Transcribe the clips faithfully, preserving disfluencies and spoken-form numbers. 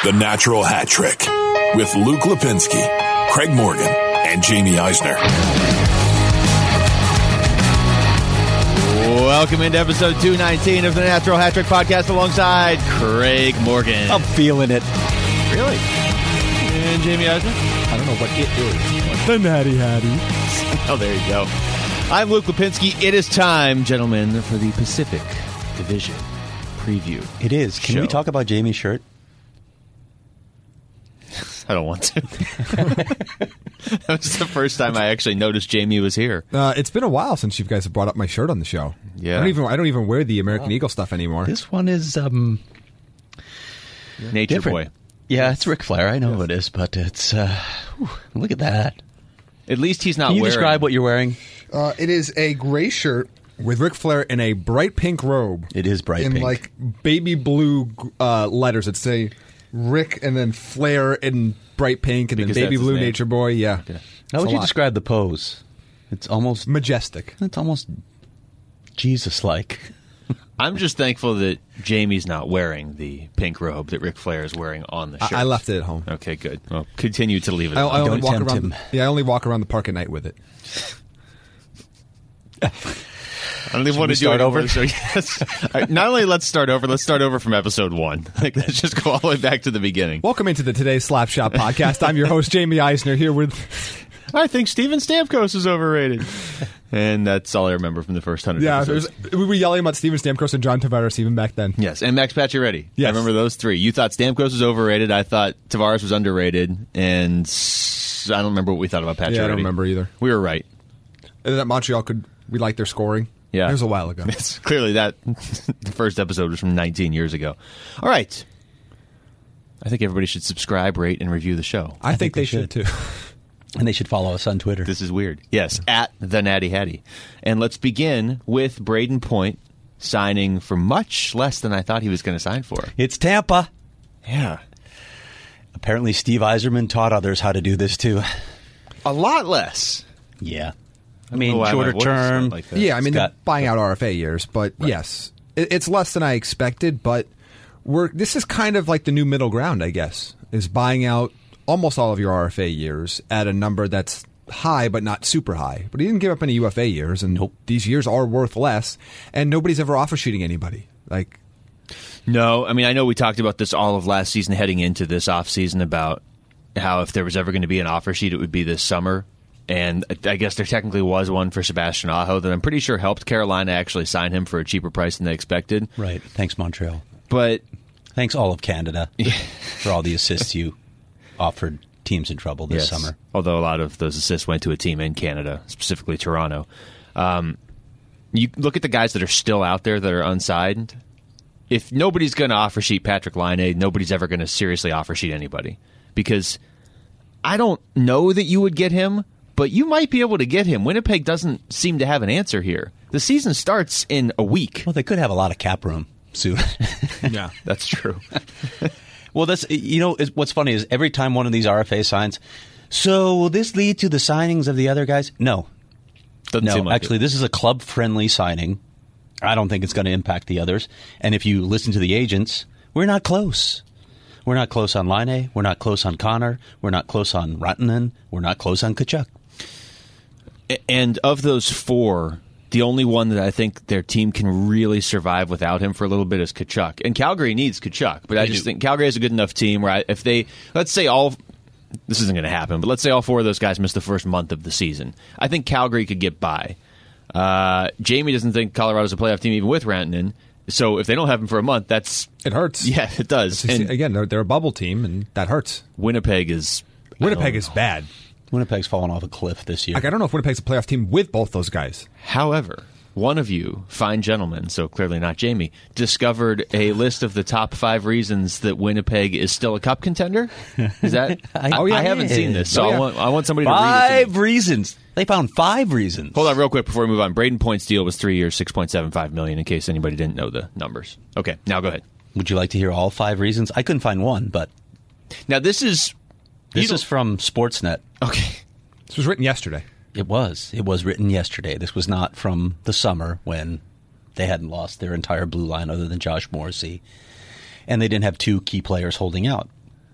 The Natural Hat Trick with Luke Lipinski, Craig Morgan, and Jamie Eisner. Welcome into episode two nineteen of the Natural Hat Trick podcast alongside Craig Morgan. I'm feeling it. Really? And Jamie Eisner? I don't know what it is. The Natty Hattie. Oh, there you go. I'm Luke Lipinski. It is time, gentlemen, for the Pacific Division preview. It is. Can show. we talk about Jamie's shirt? I don't want to. That was the first time I actually noticed Jamie was here. Uh, it's been a while since you guys have brought up my shirt on the show. Yeah. I don't even I don't even wear the American Eagle stuff anymore. This one is um, Nature different. Boy. Yeah, it's Ric Flair. I know it is, but it's uh, whew, look at that. At least he's not Can you wearing... describe what you're wearing? Uh, it is a gray shirt With Ric Flair in a bright pink robe. It is bright in pink. like baby blue uh, letters that say Rick and then Flair in bright pink and Because then that's baby his blue name. Nature Boy. Yeah. Okay. How would a you lot. describe the pose? It's almost Majestic. it's almost Jesus-like. I'm just thankful that Jamie's not wearing the pink robe that Ric Flair is wearing on the shirt. I, I left it at home. Okay, good. Well, continue to leave it I, alone. I only Don't walk tempt around. him. Yeah, I only walk around the park at night with it. I don't even Should want we to do start it over? So yes. All right, not only let's start over, let's start over from episode one. Like, let's just go all the way back to the beginning. Welcome into the Today's Slap Shop podcast. I'm your host, Jamie Eisner, here with... I think Steven Stamkos is overrated. And that's all I remember from the first hundred Yeah, episodes. there's- we were yelling about Steven Stamkos and John Tavares even back then. Yes, and Max Pacioretty. Yes. I remember those three. You thought Stamkos was overrated. I thought Tavares was underrated. And s- I don't remember what we thought about Pacioretty. Yeah, I don't remember either. We were right. And that Montreal could... We liked their scoring. Yeah. It was a while ago. It's clearly that the first episode was from nineteen years ago. All right. I think everybody should subscribe, rate, and review the show. I, think, they, should, too. And they should follow us on Twitter. This is weird. Yes, at the Natty Hattie. And let's begin with Braden Point signing for much less than I thought he was going to sign for. It's Tampa. Yeah. Apparently Steve Yzerman taught others how to do this too. A lot less. Yeah. I don't mean, know why my shorter voice term. sounded like that. Yeah, I mean, Scott. they're buying out R F A years, but yes, it, it's less than I expected. But we're this is kind of like the new middle ground, I guess, is buying out almost all of your R F A years at a number that's high but not super high. But he didn't give up any U F A years, and Nope. these years are worth less. And nobody's ever offer sheeting anybody. Like, No, I mean, I know we talked about this all of last season heading into this offseason about how if there was ever going to be an offer sheet, it would be this summer. And I guess there technically was one for Sebastian Aho that I'm pretty sure helped Carolina actually sign him for a cheaper price than they expected. Right. Thanks, Montreal. But Thanks, all of Canada, for all the assists you offered teams in trouble this yes, summer. although a lot of those assists went to a team in Canada, specifically Toronto. Um, you look at the guys that are still out there that are unsigned. If nobody's going to offer sheet Patrick Laine, nobody's ever going to seriously offer sheet anybody. Because I don't know that you would get him, but you might be able to get him. Winnipeg doesn't seem to have an answer here. The season starts in a week. Well, they could have a lot of cap room soon. yeah, That's true. Well, that's you know is- what's funny is every time one of these R F A signs. So will this lead to the signings of the other guys? No, Doesn't seem no. like Actually, it. this is a club-friendly signing. I don't think it's going to impact the others. And if you listen to the agents, we're not close. We're not close on Laine. We're not close on Connor. We're not close on Rantanen. We're not close on Tkachuk. And of those four, the only one that I think their team can really survive without him for a little bit is Tkachuk. And Calgary needs Tkachuk, but I just think Calgary has a good enough team where I, if they, let's say all, this isn't going to happen, but let's say all four of those guys miss the first month of the season. I think Calgary could get by. Uh, Jamie doesn't think Colorado's a playoff team even with Rantanen. So if they don't have him for a month, that's... it hurts. Yeah, it does. It's- And again, they're, they're a bubble team, and that hurts. Winnipeg is... Winnipeg I is don't know. bad. Winnipeg's fallen off a cliff this year. Like, I don't know if Winnipeg's a playoff team with both those guys. However, one of you, fine gentlemen, so clearly not Jamie, discovered a list of the top five reasons that Winnipeg is still a cup contender. Is that? I- I, Oh, yeah, I haven't yeah. seen this, so Oh, yeah. I want I want somebody to read it. To Five me. reasons. They found five reasons. Hold on, real quick before we move on. Braden Point's deal was three years, six point seven five million. In case anybody didn't know the numbers. Okay, now go ahead. Would you like to hear all five reasons? I couldn't find one, but Now this is this you is from Sportsnet. okay. This was written yesterday. It was. It was written yesterday. This was not from the summer when they hadn't lost their entire blue line other than Josh Morrissey. And they didn't have two key players holding out.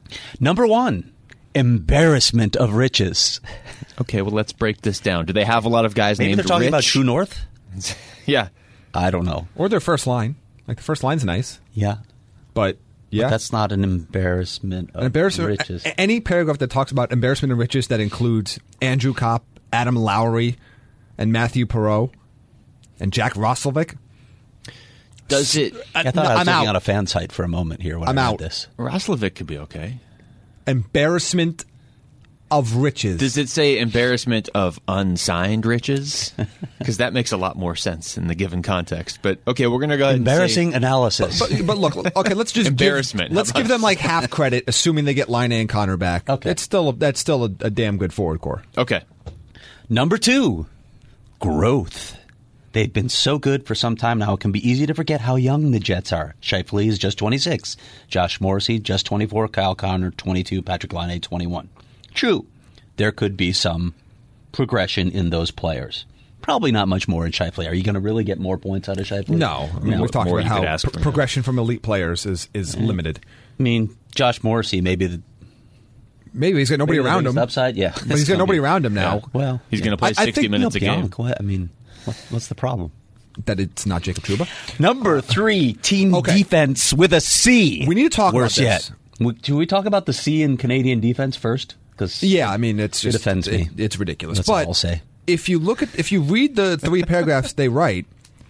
Number one, embarrassment of riches. Okay, well, let's break this down. Do they have a lot of guys Maybe named they're talking Rich? about True North? Yeah. I don't know. Or their first line. Like, the first line's nice. Yeah. But, yeah. But that's not an embarrassment of An embarrassment, riches. a- Any paragraph that talks about embarrassment and riches that includes Andrew Kopp, Adam Lowry, and Matthew Perot, and Jack Roslovic. Does it... I thought I was I'm looking out. on a fan site for a moment here when I'm I read out. this. Roslovic could be okay. Embarrassment of riches. Does it say embarrassment of unsigned riches? Because that makes a lot more sense in the given context. But, okay, we're going to go ahead Embarrassing and say... analysis. But, but look, okay, let's just Embarrassment. Give, let's How give about- them like half credit, assuming they get Line and Connor back. Okay. it's still a, that's still a, a damn good forward core. Okay. Number two, growth. They've been so good for some time now, it can be easy to forget how young the Jets are. Scheifele is just twenty-six. Josh Morrissey, just twenty-four. Kyle Connor, twenty-two. Patrick Laine, twenty-one. True, there could be some progression in those players. Probably not much more in Scheifele. Are you going to really get more points out of Scheifele? No, I mean, No, we've talked more about you could how ask pr- for. progression from elite players is is limited. I mean, Josh Morrissey, maybe the Maybe he's got nobody maybe the around biggest him. upside. Yeah, But he's got nobody around him now. Yeah. Well, He's yeah. going to play I- I sixty think minutes a Neil game. Pionk, what- I mean, what, what's the problem? That it's not Jacob Trouba. Number three, team Okay. defense with a C. We need to talk Worse about yet. this. W- Do we talk about the C in Canadian defense first? Because Yeah, I mean it's It just offends me. it- it's ridiculous. That's but all I'll say. if you look at if you read the three paragraphs they write,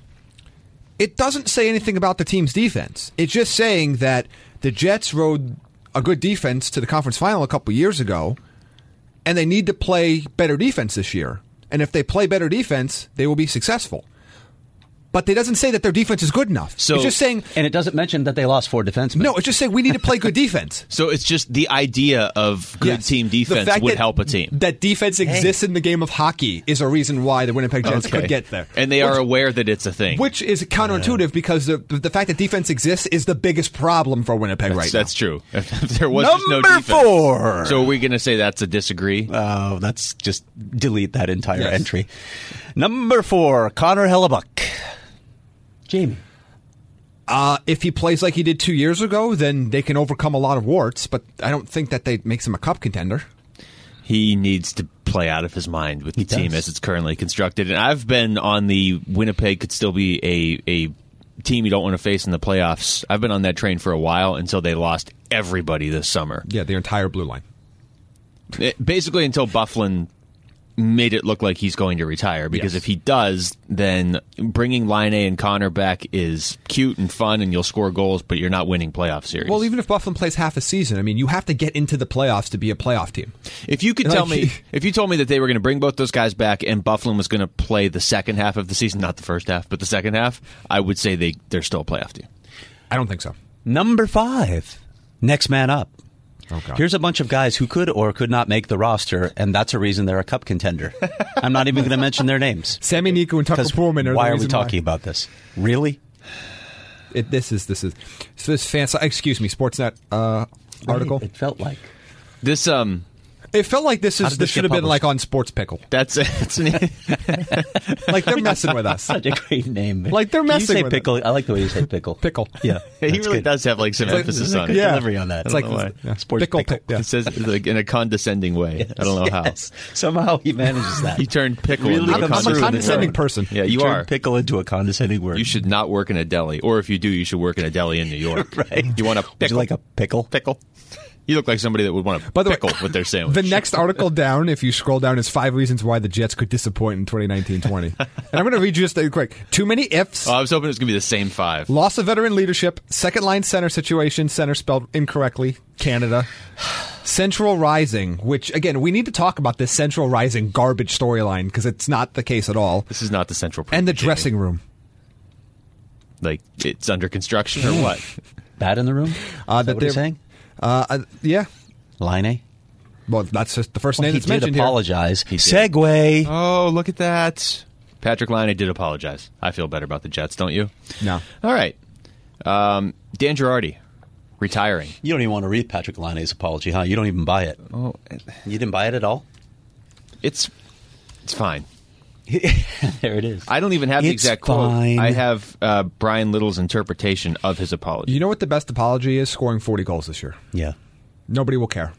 it doesn't say anything about the team's defense. It's just saying that the Jets rode a good defense to the conference final a couple years ago, and they need to play better defense this year. And if they play better defense, they will be successful. But it doesn't say that their defense is good enough. So- it's just saying and it doesn't mention that they lost four defensemen. no. It's just saying we need to play good defense. So it's just the idea of good Yes. team The defense fact would that- help a team. That defense exists in the game of hockey is a reason why the Winnipeg Jets Okay. could get there. And they Which- are aware that it's a thing. Which is counterintuitive because the the fact that defense exists is the biggest problem for Winnipeg that's, right that's now. true. If there was just no Number defense. four. So are we going to say that's a disagree? Oh, that's just delete that entire Yes. entry. Number four, Connor Hellebuck. Jamie. Uh, if he plays like he did two years ago, then they can overcome a lot of warts. But I don't think that they makes him a cup contender. He needs to play out of his mind with the He team does. as it's currently constructed. And I've been on the Winnipeg could still be a, a team you don't want to face in the playoffs. I've been on that train for a while until they lost everybody this summer. Yeah, the entire blue line. It- basically until Bufflin made it look like he's going to retire, because Yes. if he does, then bringing Laine and Connor back is cute and fun and you'll score goals, but you're not winning playoff series. Well, even if Buffalo plays half a season, I mean, you have to get into the playoffs to be a playoff team. if you could like, tell me, he- if you told me that they were going to bring both those guys back and Bufflin was going to play the second half of the season, not the first half, but the second half, I would say they, they're still a playoff team. I don't think so. Number five, next man up. Oh, God. Here's a bunch of guys who could or could not make the roster, and that's a reason they're a cup contender. I'm not even going to mention their names. Sammy Niku and Tucker Because Pullman are why the are we reason talking about this? Really? It, this is this is so this fan. Excuse me, Sportsnet uh, article. It felt like. This, um, It felt like this How is did this this should get have been published? like on Sports Pickle. that's, it's an, Like they're messing with us. Such a great name. Like, they're Can you messing say with it. pickle. I like the way you say pickle. Pickle. Yeah. he that's really good. does have like some like- emphasis There's a on good it. Yeah. delivery on that. It's I like don't know why. yeah. Sports pickle. pickle. Yeah. It says like in a condescending way. I don't know how. Yes. Somehow he manages that. He turned pickle Really into a comes I'm a through in the condescending word. person. Yeah, He you turned are. pickle into a condescending word. You should not work in a deli, or if you do, you should work in a deli in New York. Right. You want a pickle? Would you like a pickle? pickle? You look like somebody that would want a By the pickle way, with their sandwich. The next article down, if you scroll down, is five reasons why the Jets could disappoint in twenty nineteen twenty. And I'm going to read you just a quick. Too many ifs. Oh, I was hoping it was going to be the same five. Loss of veteran leadership. Second line center situation. Center spelled incorrectly. Canada. Central Rising, which, again, we need to talk about this Central Rising garbage storyline because it's not the case at all. This is not the central. And the Jimmy. dressing room. like it's under construction or what? Bad in the room? Uh, Is that what you're they're- saying? Uh, uh, yeah. Line Well, that's just the first Well, name he that's did mentioned apologize. He did. Segue. Oh, look at that! Patrick Laine did apologize. I feel better about the Jets, don't you? here. No. All right, um, Dan Girardi retiring. You don't even want to read Patrick Laine's apology, huh? You don't even buy it. Oh, You didn't buy it at all? it's it's fine. There it is. I don't even have the It's exact fine. quote. I have uh, Brian Little's interpretation of his apology. You know what the best apology is? Scoring forty goals this year. Yeah. Nobody will care.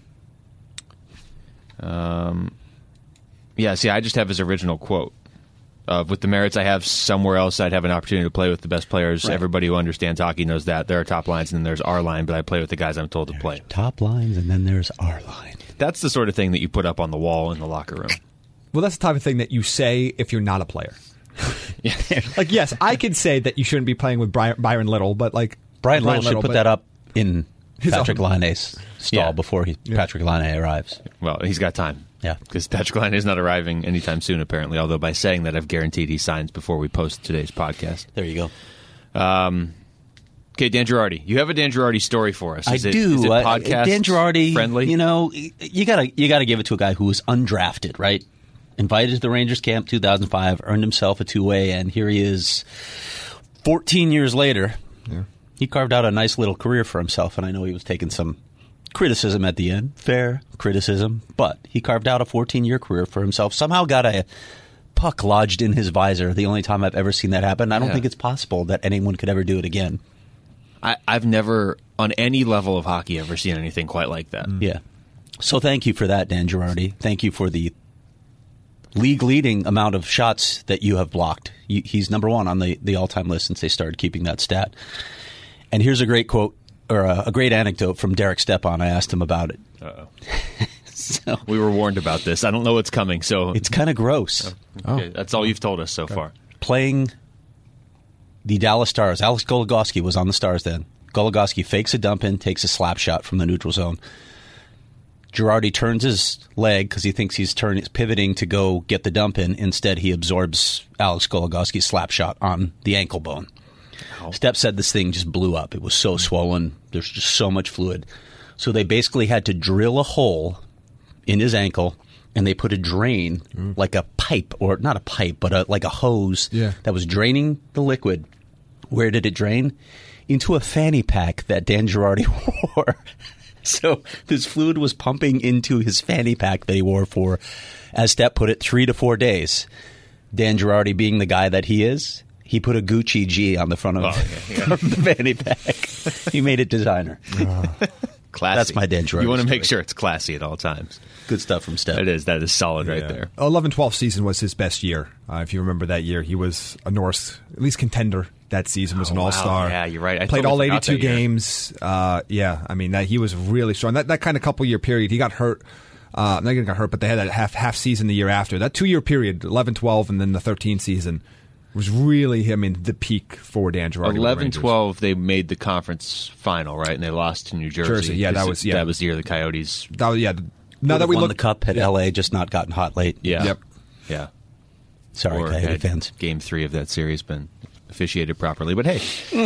Um, yeah, see, I just have his original quote. Uh, with the merits I have somewhere else, I'd have an opportunity to play with the best players. Right. Everybody who understands hockey knows that. There are top lines and then there's our line, but I play with the guys I'm told to there's play. Top lines and then there's our line. That's the sort of thing that you put up on the wall in the locker room. Well, that's the type of thing that you say if you're not a player. Yeah. Like, yes, I could say that you shouldn't be playing with Brian, Byron Little, but like Brian, Brian Little should Little, put but that up in Patrick own- Laine's stall Yeah. before he, Yeah. Patrick Laine arrives. Well, he's got time. Yeah. Because Patrick Laine is not arriving anytime soon, apparently, although by saying that, I've guaranteed he signs before we post today's podcast. There you go. Um, okay, Dan Girardi. You have a Dan Girardi story for us. Is I it, do. Is it Uh, podcast Dan Girardi, friendly? You know, you gotta you gotta give it to a guy who was undrafted, right? Invited to the Rangers camp two thousand five, earned himself a two-way, and here he is, fourteen years later. Yeah. He carved out a nice little career for himself, and I know he was taking some criticism at the end, fair criticism, but he carved out a fourteen-year career for himself. Somehow got a puck lodged in his visor. The only time I've ever seen that happen. I don't Yeah. think it's possible that anyone could ever do it again. I, I've never, on any level of hockey, ever seen anything quite like that. Yeah. So thank you for that, Dan Girardi. Thank you for the league-leading amount of shots that you have blocked. You, he's number one on the, the all-time list since they started keeping that stat. And here's a great quote, or a, a great anecdote from Derek Stepan. I asked him about it. Uh-oh. So, We were warned about this. I don't know what's coming, so it's kind of gross. okay, that's all you've told us so far. Playing the Dallas Stars, Alex Goligoski was on the Stars then. Goligoski fakes a dump in, takes a slap shot from the neutral zone. Girardi turns his leg because he thinks he's turning, pivoting to go get the dump in. Instead, he absorbs Alex Goligoski's slap shot on the ankle bone. Ow. Step said this thing just blew up. It was so swollen. There's just so much fluid. So they basically had to drill a hole in his ankle, and they put a drain, mm. like a pipe, or not a pipe, but a, like a hose yeah. that was draining the liquid. Where did it drain? Into a fanny pack that Dan Girardi wore. So this fluid was pumping into his fanny pack that he wore for, as Stepp put it, three to four days. Dan Girardi, being the guy that he is, he put a Gucci G on the front of, oh, yeah, yeah. of the fanny pack. He made it designer. Uh, classy. That's my Dan Girardi You want to make story. sure it's classy at all times. Good stuff from Stepp. It is. That is solid right Yeah. there. eleven twelve season was his best year. Uh, if you remember that year, he was a Norris, at least contender that season, was Oh, an wow. all-star. Yeah, you're right. I Played totally all forgot eighty-two that year. games. Uh, yeah, I mean, that he was really strong. That that kind of couple-year period, he got hurt. Uh, not he got hurt, but they had that half half season the year after. That two-year period, eleven twelve, and then the thirteen season, was really, I mean, the peak for Dan Girardi. eleven twelve, they made the conference final, right? And they lost to New Jersey. Jersey, yeah, that 'Cause was- yeah. that was the year the Coyotes. That was, yeah. Now Would that have we won look the cup, had yeah. L A just not gotten hot late. Yeah. Yep. Yeah. Sorry, Or Coyote had fans. Game three of that series been officiated properly. But hey.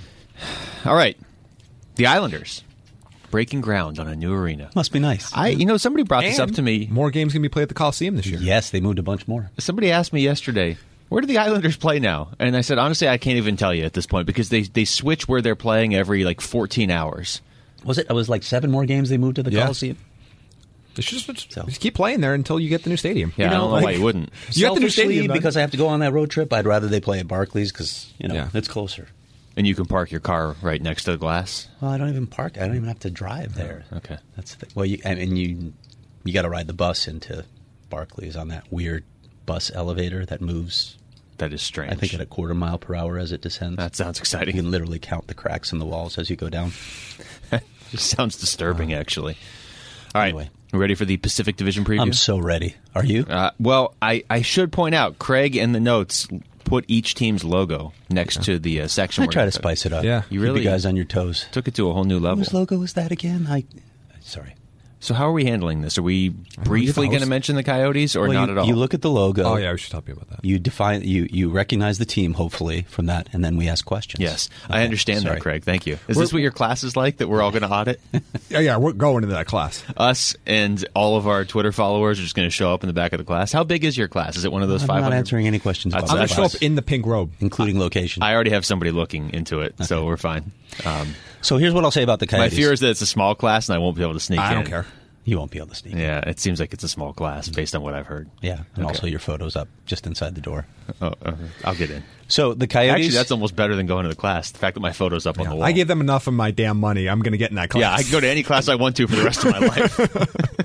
All right. The Islanders breaking ground on a new arena. Must be nice. I, you know, somebody brought this up And to me. More games going to be played at the Coliseum this year. Yes, they moved a bunch more. Somebody asked me yesterday, where do the Islanders play now? And I said, honestly, I can't even tell you at this point because they they switch where they're playing every like fourteen hours. Was it? It was like seven more games they moved to the Yeah. Coliseum. They should just, So- just keep playing there until you get the new stadium. Yeah, You know, I don't know like- why you wouldn't. You have the new Selfishly, stadium done. because I have to go on that road trip, I'd rather they play at Barclays because, you know, Yeah. it's closer. And you can park your car right next to the glass. Well, I don't even park. I don't even have to drive there. Okay. That's the, well, you and, and you you got to ride the bus into Barclays on that weird bus elevator that moves. That is strange. I think at a quarter mile per hour as it descends. That sounds You exciting. can literally count the cracks in the walls as you go down. It sounds disturbing, actually. All right. Anyway. We ready for the Pacific Division preview? I'm so ready. Are you? Uh, well, I, I should point out, Craig in the notes put each team's logo next to the uh, section. I we're try gonna- to spice it up. Yeah. You Keep really- you guys on your toes. Took it to a whole new level. Whose logo is that again? I sorry. So how are we handling this? Are we briefly host. going to mention the Coyotes or Well, not you, at all? You look at the logo. Oh, yeah, we should talk about that. You define. You you recognize the team, hopefully, from that, and then we ask questions. Yes, Okay, I understand sorry. that, Craig. Thank you. Is We're- this what your class is like that we're all going to audit? Yeah, yeah, we're going into that class. Us and all of our Twitter followers are just going to show up in the back of the class. How big is your class? Is it one of those I'm five hundred? not answering any questions That's- about I'm going the to show class, up in the pink robe. including location. I already have somebody looking into it, so we're fine. Um, so here's what I'll say about the my Coyotes. fear is that it's a small class and I won't be able to sneak in. I don't care. You won't be able to sneak. Yeah, it seems like it's a small class based on what I've heard. Yeah, and Okay. also your photo's up just inside the door. Oh, uh, I'll get in. So the Coyotes. Actually, that's almost better than going to the class. The fact that my photo's up on the wall. I gave them enough of my damn money. I'm going to get in that class. Yeah, I can go to any class I want to for the rest of my life.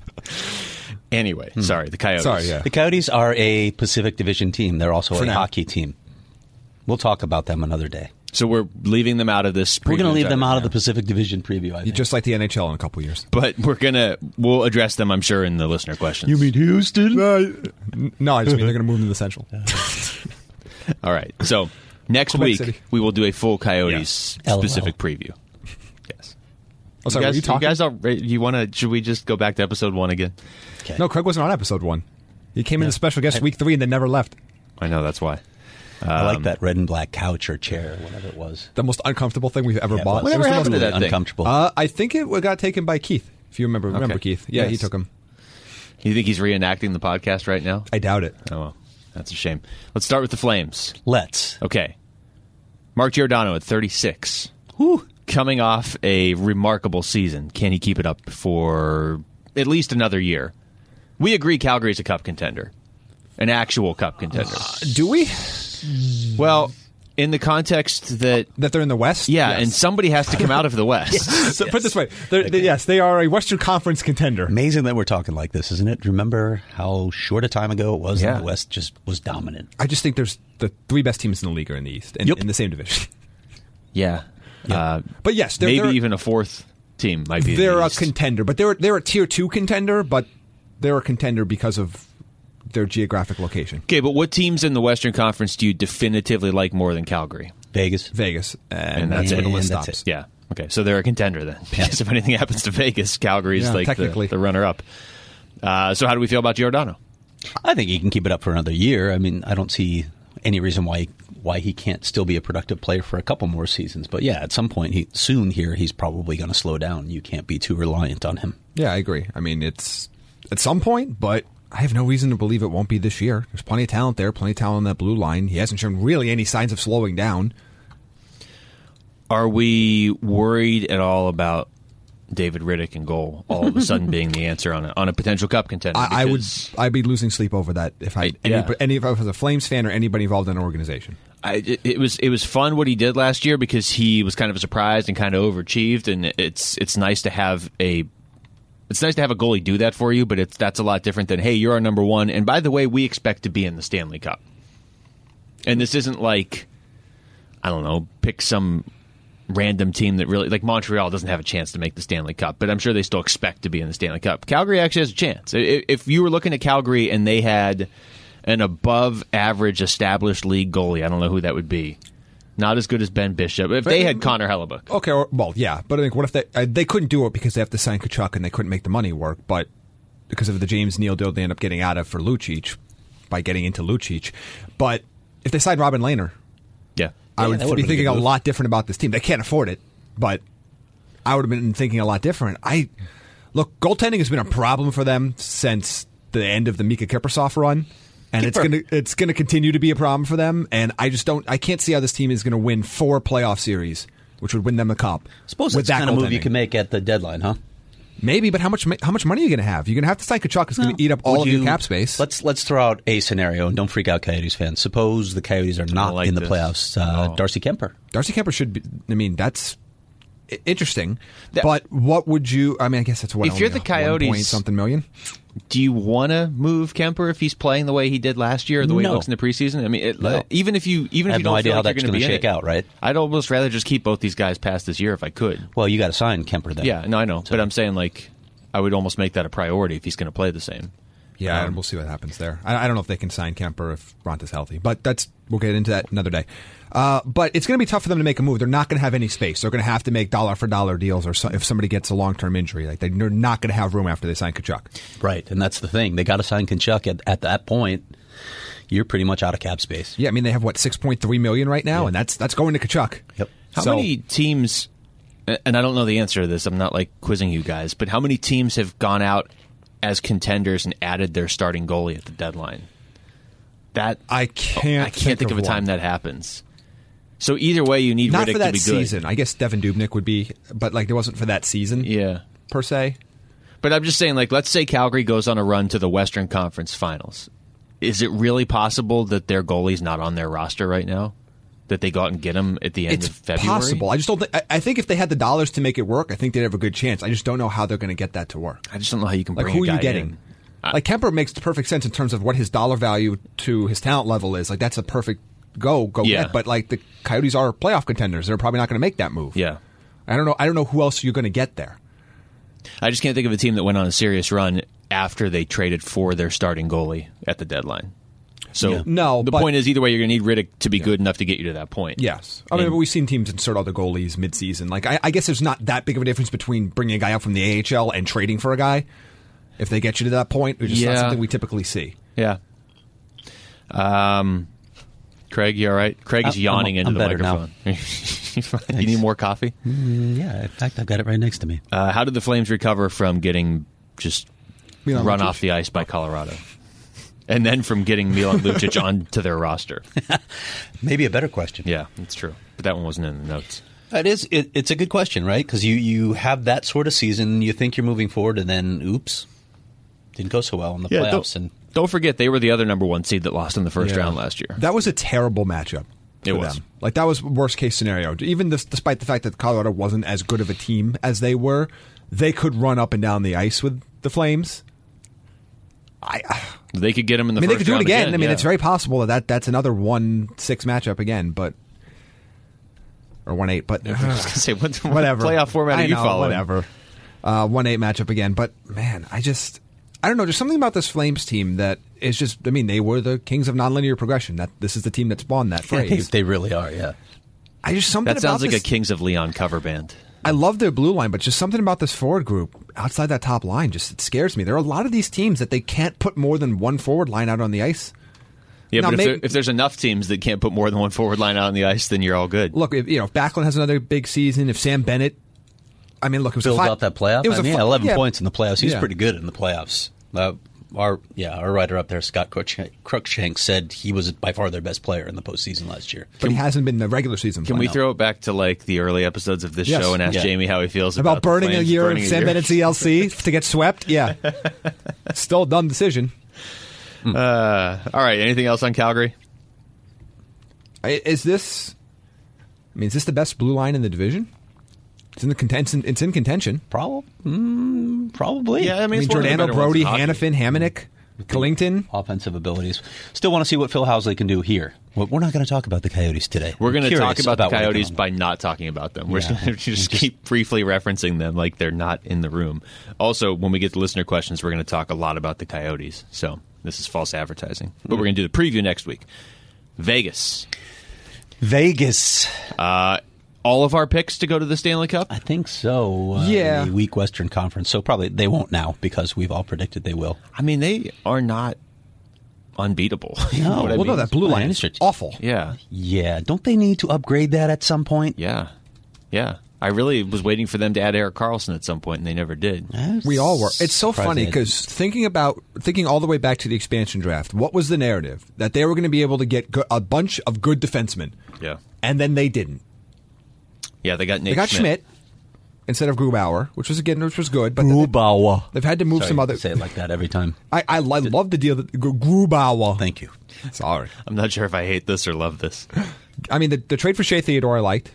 Anyway, sorry, the Coyotes. Sorry, yeah. The Coyotes are a Pacific Division team. They're also For a now. hockey team. We'll talk about them another day. So we're leaving them out of this. We're going to preview leave them out of now. the Pacific Division preview, I You think. just like the N H L in a couple years. But we're gonna we'll address them, I'm sure, in the listener questions. Houston? No, I just mean they're going to move to the Central. All right. So next Quebec week City. we will do a full Coyotes Yeah. L O L. specific preview. Yes. Oh, sorry, you were guys, you talking? guys all, you want to? Should we just go back to episode one again? Okay. No, Craig wasn't on episode one. He came in as special guest week three and then never left. I know that's why. I Um, like that red and black couch or chair, whatever it was. The most uncomfortable thing we've ever Yeah, it bought. was. It was Whatever the happened most- to that thing? Uncomfortable. Uh, I think it got taken by Keith. If you remember, remember Okay. Keith? Yeah, he Yes. took him. You think he's reenacting the podcast right now? I doubt it. Oh well, that's a shame. Let's start with the Flames. Let's. Okay. Mark Giordano at thirty-six. Whew. Coming off a remarkable season. Can he keep it up for at least another year? We agree Calgary's a cup contender. An actual cup contender. Do we? Well, in the context that, That they're in the West? yeah, Yes. and somebody has to come out of the West. So put it this way. They're, they- yes, they are a Western Conference contender. Amazing that we're talking like this, isn't it? Remember how short a time ago it was Yeah. that the West just was dominant. I just think there's the three best teams in the league are in the East, in, Yep. in the same division. Yeah. Uh, But yes, they're, maybe they're, even a fourth team might be in they're the a East. contender. But they're they're a tier two contender, but they're a contender because of their geographic location. Okay, but what teams in the Western Conference do you definitively like more than Calgary? Vegas. Vegas. And, And that's that's where it. the list And that's stops. it. Yeah. Okay, so they're a contender then. Because if anything happens to Vegas, Calgary's Yeah, like the, technically. the runner-up. Uh, so how do we feel about Giordano? I think he can keep it up for another year. I mean, I don't see any reason why why he can't still be a productive player for a couple more seasons. But yeah, at some point, he, soon here, he's probably going to slow down. You can't be too reliant on him. Yeah, I agree. I mean, it's at some point, but I have no reason to believe it won't be this year. There's plenty of talent there, plenty of talent on that blue line. He hasn't shown really any signs of slowing down. Are we worried at all about David Riddick in goal all of a sudden being the answer on a, on a potential cup contender? I, I would, Because I'd be losing sleep over that if I, I- any, yeah. any, if I was a Flames fan or anybody involved in an organization. I, it, it was it was fun what he did last year because he was kind of surprised and kind of overachieved, and it's it's nice to have a it's nice to have a goalie do that for you, but it's that's a lot different than, hey, you're our number one, and by the way, we expect to be in the Stanley Cup. And this isn't like, I don't know, pick some random team that really, like Montreal doesn't have a chance to make the Stanley Cup, but I'm sure they still expect to be in the Stanley Cup. Calgary actually has a chance. I- If you were looking at Calgary and they had an above average established league goalie, I don't know who that would be. Not as good as Ben Bishop. If they had Connor Hellebuck. Okay, or, well, yeah, but I think what if they uh, they couldn't do it because they have to sign Kachuk and they couldn't make the money work, but because of the James Neal deal they end up getting out of for Lucic by getting into Lucic. But if they signed Robin Lehner, Yeah. I Yeah, would that be would've been a thinking good a move. lot different about this team. They can't afford it, but I would have been thinking a lot different. I look, goaltending has been a problem for them since the end of the Mika Kiprusoff run, and it's Kipper. gonna it's gonna continue to be a problem for them. And I just don't, I can't see how this team is going to win four playoff series, which would win them the cup. Suppose with that's the kind of move you goaltending. can make at the deadline, huh? Maybe, but how much ma- how much money are you going to have? You're going to have to sign Kachuk. It's going to eat up all Would of you- your cap space. Let's let's throw out a scenario, and don't freak out, Coyotes fans. Suppose the Coyotes are not like in the this. playoffs. Uh, Oh. Darcy Kemper. Darcy Kemper should be. I mean, that's i- interesting. That- but what would you? I mean, I guess that's what. If you're only the a one Coyotes- point something million. Do you want to move Kemper if he's playing the way he did last year, or the way No. he looks in the preseason? I mean, it, No. even if you even I if have you no don't idea feel how like that's you're going going to to shake out, right? I'd almost rather just keep both these guys past this year if I could. Well, you got to sign Kemper then. Yeah, no, I know, but I'm saying like I would almost make that a priority if he's going to play the same. Yeah, Um, and we'll see what happens there. I, I don't know if they can sign Kemper if Ronta's healthy, but that's we'll get into that another day. Uh, but it's going to be tough for them to make a move. They're not going to have any space. They're going to have to make dollar for dollar deals, or so, if somebody gets a long term injury, like they're not going to have room after they sign Kachuk. Right, and that's the thing. They got to sign Kachuk at, at that point. You're pretty much out of cap space. Yeah, I mean they have what six point three million right now, Yeah. and that's that's going to Kachuk. Yep. How So- many teams? And I don't know the answer to this. I'm not like quizzing you guys, but how many teams have gone out as contenders and added their starting goalie at the deadline? That I can't. I can't think, of a time one. that happens. So either way, you need Not Riddick for that to be good. season. I guess Devin Dubnyk would be, but like it wasn't for that season Yeah. per se. But I'm just saying, like, let's say Calgary goes on a run to the Western Conference Finals. Is it really possible that their goalie's not on their roster right now? That they go out and get him at the end It's of February? possible. I just don't think. I, I think if they had the dollars to make it work, I think they'd have a good chance. I just don't know how they're going to get that to work. I just don't know how you can Like, bring who a are guy you getting? in. I- Like Kemper makes the perfect sense in terms of what his dollar value to his talent level is. Like that's a perfect go go Yeah. get. But like the Coyotes are playoff contenders, they're probably not going to make that move. Yeah. I don't know. I don't know who else you're going to get there. I just can't think of a team that went on a serious run after they traded for their starting goalie at the deadline. So Yeah. No, the but- point is either way, you're going to need Riddick to be good enough to get you to that point. Yes, I mean And- but we've seen teams insert other goalies midseason. Like I, I guess there's not that big of a difference between bringing a guy up from the A H L and trading for a guy. If they get you to that point, it's just Yeah. not something we typically see. Yeah. Um, Craig, you all right? Craig is I'm- yawning I'm into the better now. microphone. You need more coffee? Mm, yeah, in fact, I've got it right next to me. Uh, how did the Flames recover from getting just Milan run Lucic? off the ice by Colorado? And then from getting Milan Lucic onto their roster? Maybe a better question. Yeah, that's true. But that one wasn't in the notes. It is. It, it's a good question, right? Because you, you have that sort of season, you think you're moving forward, and then, oops, didn't go so well in the Yeah, playoffs. don't, And don't forget, they were the other number one seed that lost in the first Yeah. round last year. That was a terrible matchup. It for was. them. Like that was worst case scenario. Even this, despite the fact that Colorado wasn't as good of a team as they were, they could run up and down the ice with the Flames. I, They could get them in the I mean, they first could do it round again. I mean, yeah. it's very possible that, that that's another one six matchup again, but or one eight. But I was going to say, what, what whatever playoff format I are you know, following? Whatever. Uh, one eight matchup again, but man, I just I don't know. There's something about this Flames team that is just. I mean, they were the kings of nonlinear progression. That this is the team that spawned that yeah, they, phrase. they really are, yeah. I just something That sounds about like this, a Kings of Leon cover band. I love their blue line, but just something about this forward group outside that top line just it scares me. There are a lot of these teams that they can't put more than one forward line out on the ice. Yeah, Now, but if, maybe- there, if there's enough teams that can't put more than one forward line out on the ice, then you're all good. Look, if, you know, if Backlund has another big season, if Sam Bennett, I mean, look, it was Filled a fi- out that playoff. It was I a mean, fi- yeah, eleven yeah. points in the playoffs. He's Yeah. pretty good in the playoffs. Uh, our yeah, our writer up there, Scott Cruikshank, Cruikshank, said he was by far their best player in the postseason last year. But he hasn't been in the regular season. Can play. we know. throw it back to like the early episodes of this Yes. show and ask Yeah. Jamie how he feels about, about burning the a Flames year burning of a Sam year? Bennett C L C to get swept? Yeah, still a dumb decision. Uh, all right. Anything else on Calgary? I- Is this? I mean, is this the best blue line in the division? It's in the contention. It's in contention. Probably, mm, probably. Yeah, I I mean, mean, it's one of the Giordano, better ones Brody, in hockey. Hannafin, Hamonic, Killington. Offensive abilities. Still want to see what Phil Housley can do here. Well, we're not going to talk about the Coyotes today. We're going to Curious talk about, the what he Coyotes can- by not talking about them. We're Yeah. just going to just Just- keep briefly referencing them like they're not in the room. Also, when we get to listener questions, we're going to talk a lot about the Coyotes. So this is false advertising. But we're going to do the preview next week. Vegas. Vegas. Uh, all of our picks to go to the Stanley Cup? I think so. Uh, Yeah. The weak Western Conference. So probably they won't now because we've all predicted they will. I mean, they are not unbeatable. You know No. what I Well, no, mean? that blue By line any is stretch. awful. Yeah. Yeah. Don't they need to upgrade that at some point? Yeah. Yeah. I really was waiting for them to add Eric Carlson at some point, and they never did. Eh, We all were. It's so surprised funny they- because thinking about thinking all the way back to the expansion draft, what was the narrative that they were going to be able to get go- a bunch of good defensemen, Yeah. and then they didn't. Yeah, they got Nate They got Schmidt. Schmidt instead of Grubauer, which was again which was good, but Grubauer. they've had to move Sorry, some you other. say it like that every time. I I, I love the deal that Gru- Grubauer. Thank you. Sorry, I'm not sure if I hate this or love this. I mean the, the trade for Shea Theodore I liked,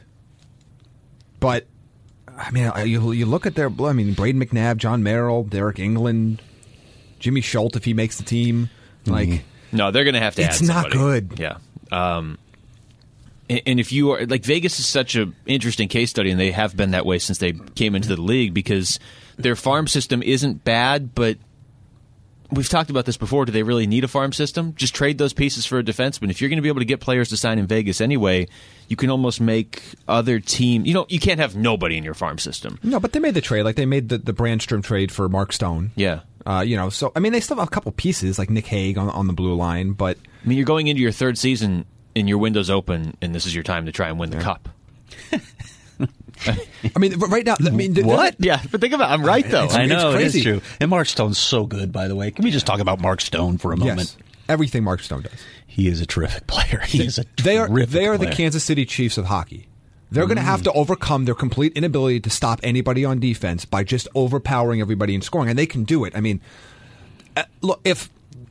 but I mean I- you you look at their I mean Braden McNabb, John Merrill, Derek England, Jimmy Schultz if he makes the team, like. No, they're going to have to It's add not somebody. good. Yeah. Um, and, and if you are like Vegas is such an interesting case study, and they have been that way since they came into the league because their farm system isn't bad, but we've talked about this before. Do they really need a farm system? Just trade those pieces for a defenseman. If you're going to be able to get players to sign in Vegas anyway, you can almost make other team. You know, you can't have nobody in your farm system. No, but they made the trade. Like they made the, the Brandstrom trade for Mark Stone. Yeah. Uh, you know, so I mean, they still have a couple pieces like Nick Hague on, on the blue line, but I mean, you're going into your third season and your window's open, and this is your time to try and win the cup. I mean, right now, I mean, th- What? Yeah, but think about it. I'm right, though. It's- I know, it crazy. is true. And Mark Stone's so good, by the way. Can we just talk about Mark Stone for a moment? yes, everything Mark Stone does. He is a terrific player. He is a They are terrific they are the player. Kansas City Chiefs of hockey. They're going to have to overcome their complete inability to stop anybody on defense by just overpowering everybody in scoring, and they can do it. I mean, uh, look, if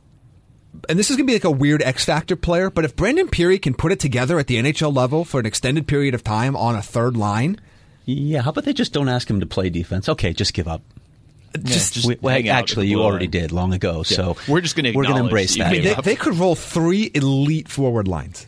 and this is going to be like a weird X factor player, but if Brandon Peary can put it together at the N H L level for an extended period of time on a third line, yeah, how about they just don't ask him to play defense? Okay, just give up. Just, just we, well, actually, you already line. did long ago, Yeah. so we're just going to we're going to embrace that. I mean, they, they could roll three elite forward lines.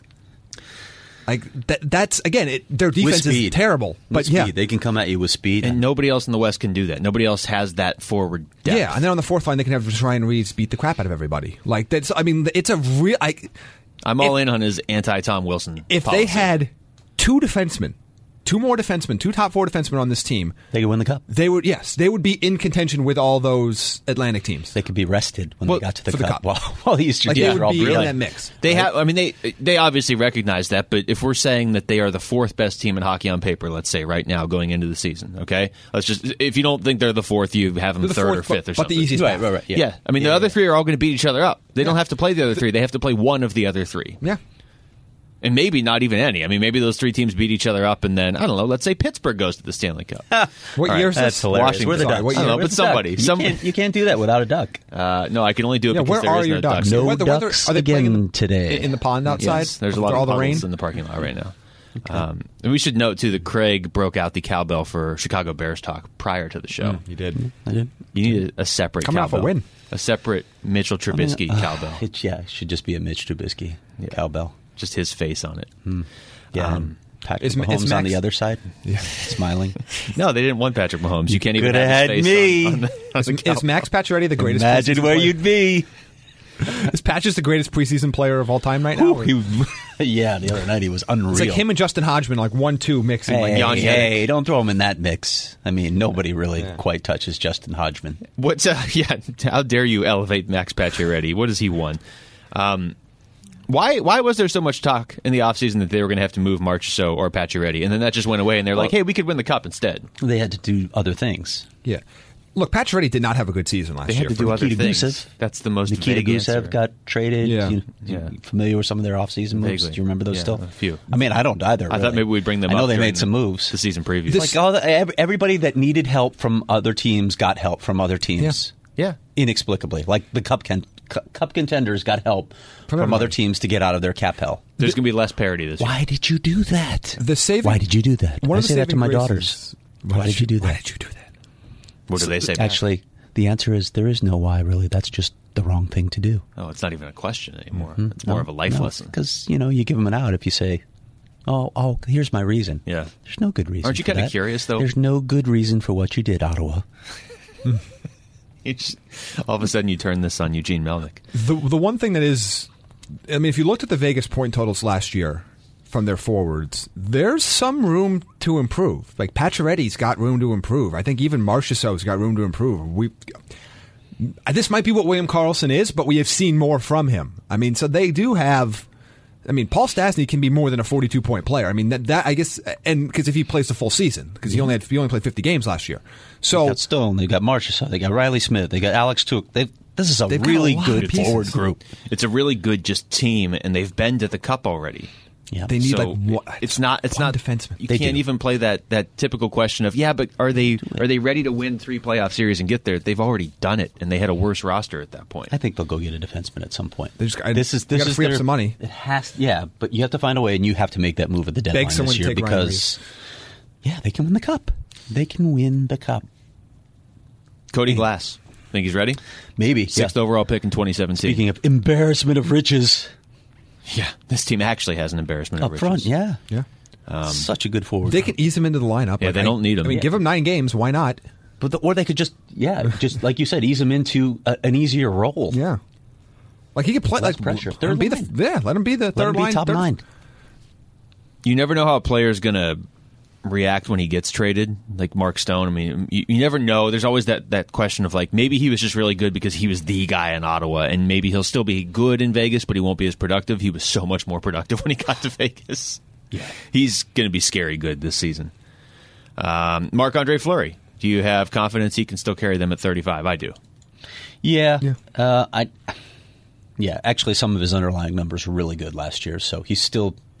Like that, that's again, it, their defense is terrible, With but speed. yeah, They can come at you with speed, And nobody else in the West can do that. Nobody else has that forward depth. yeah. And then on the fourth line, they can have just Ryan Reeves beat the crap out of everybody. Like that's, I mean, it's a real. I, I'm all if, in on his anti-Tom Wilson If policy. they had two defensemen, two more defensemen, two top four defensemen on this team, they could win the cup. they would yes, they would be in contention with all those Atlantic teams. They could be rested when Well, they got to the for cup. the cup. While, while the Eastern Like teams they are would all be in brilliant. that mix. They right? have. I mean, they they obviously recognize that. But if we're saying that they are the fourth best team in hockey on paper, let's say right now going into the season, okay, let's just if you don't think they're the fourth, you have them They're the third fourth, or fifth but, or but something. the easiest Right, path. right, right. Yeah, Yeah. I mean Yeah, the other yeah. three are all going to beat each other up. They don't have to play the other three. They have to play one of the other three. Yeah. And maybe not even any. I mean, maybe those three teams beat each other up, and then I don't know. Let's say Pittsburgh goes to the Stanley Cup. What All right, year is That's this? hilarious. Washington. We're the Sorry, Ducks. what I don't year? know, We're but the somebody, Ducks. some. You can't, you can't do that without a duck. Uh, no, I can only do it Yeah, because where there are is your no ducks? No Whether- whether- ducks are they playing in again the- today. in the pond outside? Yes, there's a with lot all of the puddles rain. in the parking lot right now. Um, and we should note too that Craig broke out the cowbell for Chicago Bears talk prior to the show. You did. I did. You need a, a separate Coming off a cowbell, win. a separate Mitchell Trubisky I mean, uh, cowbell, It, yeah, it should just be a Mitch Trubisky cowbell. just his face on it. Yeah. Um, and Patrick is- is Mahomes on Max- the other side, smelling. No, they didn't want Patrick Mahomes. You can't even coulda have had his face me. on, on the, on the Is cowbell. Max Pacioretty the greatest? Imagine preseason where player? you'd be. Is Patches the greatest preseason player of all time right now? Ooh, he- yeah, the other night he was unreal. It's like him and Justin Hodgman, like one two mixing. Hey, like Jan Jenik. hey, don't throw him in that mix. I mean, nobody really quite touches Justin Hodgman. What's uh, yeah? How dare you elevate Max Pacioretty? What has he won? Um, why why was there so much talk in the offseason that they were going to have to move Marchessault or Pacioretty, and then that just went away, and they're like, hey, we could win the cup instead. They had to do other things. Yeah. Look, Pacioretty did not have a good season last They year. had to for do the- other Nikita things. Gusev. That's the most Nikita vague Gusev answer. got traded. Yeah. You, Yeah. you familiar with some of their offseason moves? Vaguely. Do you remember those Yeah, still? a few. I mean, I don't either. I thought really. maybe we'd bring them I know up they during made some the- moves. the season previews. Like all the, ev- everybody that needed help from other teams got help from other teams. yeah. Inexplicably. Like the cup, con- cu- cup contenders got help from, everybody. other teams to get out of their cap hell. There's going to be less parity this year. Why did you do that? The saving- Why did you do that? One I of the say that to saving my graces- daughters. Why, did you do that? Why did you do that? What do they say? back? Actually, the answer is there is no why, really. That's just the wrong thing to do. Oh, it's not even a question anymore. It's more of a life lesson. Because, you know, you give them an out if you say, oh, oh, here's my reason. Yeah. There's no good reason Aren't you for kinda that. curious, though? There's no good reason for what you did, Ottawa. You just- all of a sudden, you turn this on Eugene Melnick. The the one thing that is, I mean, if you looked at the Vegas point totals last year from their forwards, there's some room to improve. Like Pacioretty's got room to improve. I think even Marchessault's got room to improve. We. This might be what William Karlsson is, but we have seen more from him. I mean, so they do have. I mean, Paul Stastny can be more than a forty-two point player. I mean, that, that I guess, and because if he plays the full season, because he only had he only played fifty games last year. So They got Stone, they got Marchessault, they got Riley Smith, they got Alex Tuch. They, this is a They've got really a lot good of pieces. forward group. It's a really good just team, and they've been to the cup already. Yeah. they need So like one, it's not it's one not defenseman. You They can't do. even play that, that typical question of yeah, but are they are they ready to win three playoff series and get there? They've already done it, and they had a worse roster at that point. I think they'll go get a defenseman at some point. They just- I- this is they this gotta is free up their- some money. It has, yeah, but you have to find a way, and you have to make that move at the deadline someone this to year take Ryan because, yeah, they can win the cup. They can win the cup. Cody Glass, think he's ready? Maybe Sixth yeah. overall pick in twenty seventeen. Speaking of embarrassment of riches, yeah, this team actually has an embarrassment of up front, riches. yeah, Yeah. Such a good forward. They can ease him into the lineup. Yeah, they don't need him. I mean, Yeah. give him nine games. Why not? But the, or they could just, yeah, just like you said, ease him into a, an easier role. Yeah. Like he could play Less like pressure. Let him Third be line. the yeah. Let him be the Let third him be line. top third- nine. You never know how a player's going to react when he gets traded, like Mark Stone. I mean, you, you never know. There's always that, that question of like, maybe he was just really good because he was the guy in Ottawa, and maybe he'll still be good in Vegas, but he won't be as productive. He was so much more productive when he got to Vegas. Yeah. He's going to be scary good this season. Um, Marc-Andre Fleury, do you have confidence he can still carry them at thirty-five? I do. Yeah, Yeah. Uh, I, yeah. Actually, some of his underlying numbers were really good last year, so he's still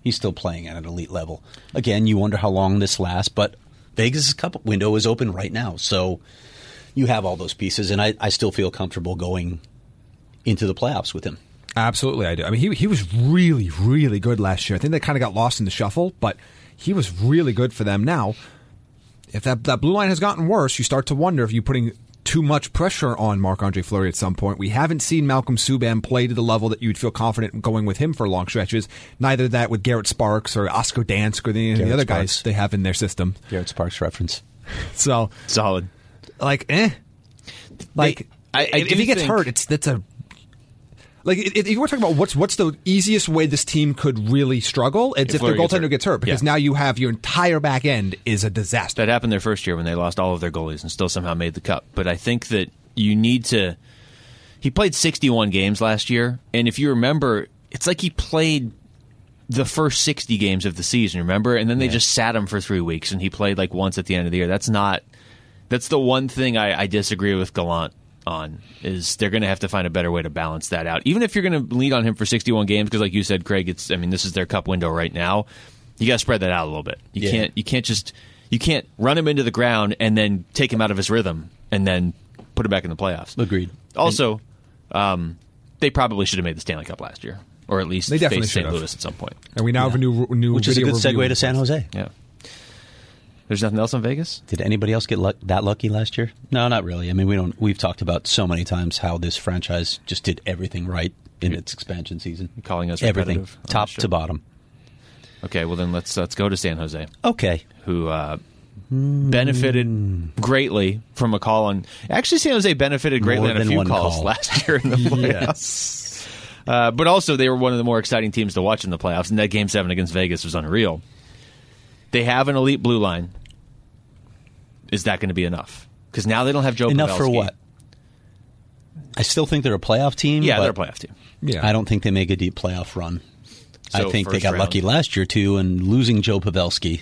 He's still playing at an elite level. Again, you wonder how long this lasts, but Vegas' cup window is open right now. So you have all those pieces, and I, I still feel comfortable going into the playoffs with him. Absolutely, I do. I mean, he he was really, really good last year. I think they kind of got lost in the shuffle, but he was really good for them. Now, if that, that blue line has gotten worse, you start to wonder if you're putting too much pressure on Marc-Andre Fleury at some point. We haven't seen Malcolm Subban play to the level that you'd feel confident in going with him for long stretches. Neither that with Garrett Sparks or Oscar Dansk or the, the other Sparks. guys they have in their system. Garrett Sparks reference. So Solid. like, eh. Like, They- I- I if, do if he gets think- hurt, it's that's a like. If if you were talking about what's what's the easiest way this team could really struggle, it's If if, their Fleury gets goaltender hurt. gets hurt, because Yeah. now you have your entire back end is a disaster. That happened their first year when they lost all of their goalies and still somehow made the cup. But I think that you need to. He played sixty-one games last year, and if you remember, it's like he played the first sixty games of the season, remember? And then they Yeah. just sat him for three weeks, and he played like once at the end of the year. That's not. That's the one thing I, I disagree with Gallant on, is they're going to have to find a better way to balance that out. Even if you're going to lean on him for sixty-one games, because like you said, Craig, it's I mean this is their cup window right now. You got to spread that out a little bit. You Yeah. can't you can't just you can't run him into the ground and then take him out of his rhythm and then put him back in the playoffs. Agreed. Also, um, they probably should have made the Stanley Cup last year, or at least They definitely faced Saint should have. Louis at some point. And we now have a new new Which is a video good review. segue to San Jose. Yeah. There's nothing else in Vegas? Did anybody else get luck- that lucky last year? No, not really. I mean, we don't. We've talked about so many times how this franchise just did everything right in its expansion season. You're calling us everything, repetitive on top this show. to bottom. Okay, well then let's let's go to San Jose, Okay, who uh, benefited greatly from a call on. Actually, San Jose benefited greatly More on a than few one calls call. last year in the playoffs. Uh, but also, they were one of the more exciting teams to watch in the playoffs, and that Game Seven against Vegas was unreal. They have an elite blue line. Is that going to be enough? Because now they don't have Joe enough for Pavelski. what? I still think they're a playoff team. Yeah, but they're a playoff team. Yeah, I don't think they make a deep playoff run. So I think they first got round. lucky last year too, and losing Joe Pavelski.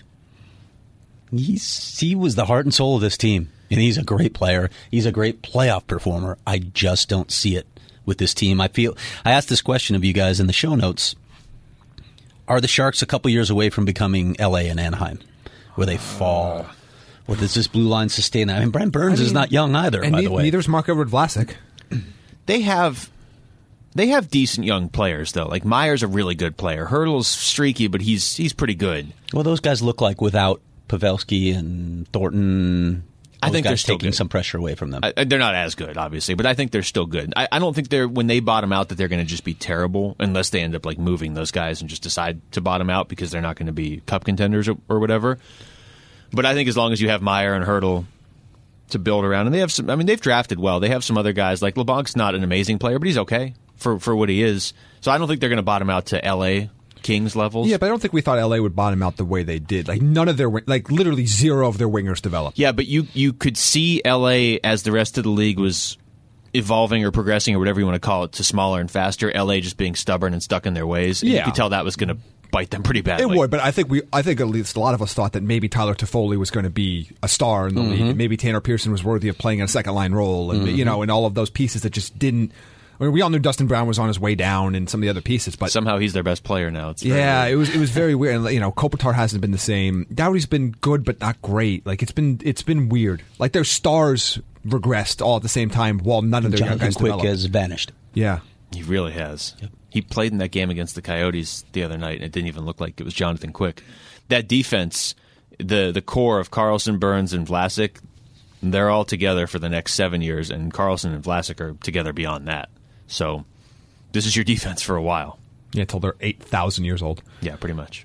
He's he was the heart and soul of this team, and he's a great player. He's a great playoff performer. I just don't see it with this team. I feel I asked this question of you guys in the show notes. Are the Sharks a couple years away from becoming L A and Anaheim, where they fall? Or does this blue line sustain that? I mean, Brent Burns I is mean, not young either, and by ne- the way. neither is Marc-Edouard Vlasic. They have they have decent young players though. Like Meyer's a really good player. Hurdle's streaky, but he's he's pretty good. Well, those guys look like without Pavelski and Thornton. I those think they're guys still taking good. some pressure away from them. I, they're not as good, obviously, but I think they're still good. I, I don't think they're when they bottom out that they're going to just be terrible unless they end up like moving those guys and just decide to bottom out because they're not going to be cup contenders or, or whatever. But I think as long as you have Meyer and Hurdle to build around, and they have some. I mean, they've drafted well. They have some other guys like LeBlanc's not an amazing player, but he's okay for for what he is. So I don't think they're going to bottom out to L A Kings levels. Yeah, but I don't think we thought L A would bottom out the way they did. Like none of their, wing- like literally zero of their wingers developed. Yeah, but you you could see L A as the rest of the league was evolving or progressing or whatever you want to call it to smaller and faster. L A just being stubborn and stuck in their ways. And Yeah. you could tell that was going to bite them pretty badly. It would, but I think we, I think at least a lot of us thought that maybe Tyler Toffoli was going to be a star in the league. And maybe Tanner Pearson was worthy of playing a second line role, and you know, and all of those pieces that just didn't. I mean, we all knew Dustin Brown was on his way down, and some of the other pieces, but Somehow he's their best player now. It's very yeah, weird. it was it was very weird. And you know, Kopitar hasn't been the same. Dowdy's been good, but not great. Like it's been it's been weird. Like their stars regressed all at the same time, while none of their young Jonathan guys Quick developed. has vanished. Yeah. He really has. He played in that game against the Coyotes the other night, and it didn't even look like it was Jonathan Quick. That defense, the the core of Carlson, Burns, and Vlasic, they're all together for the next seven years, and Carlson and Vlasic are together beyond that. So this is your defense for a while. Yeah, until they're eight thousand years old. Yeah, pretty much.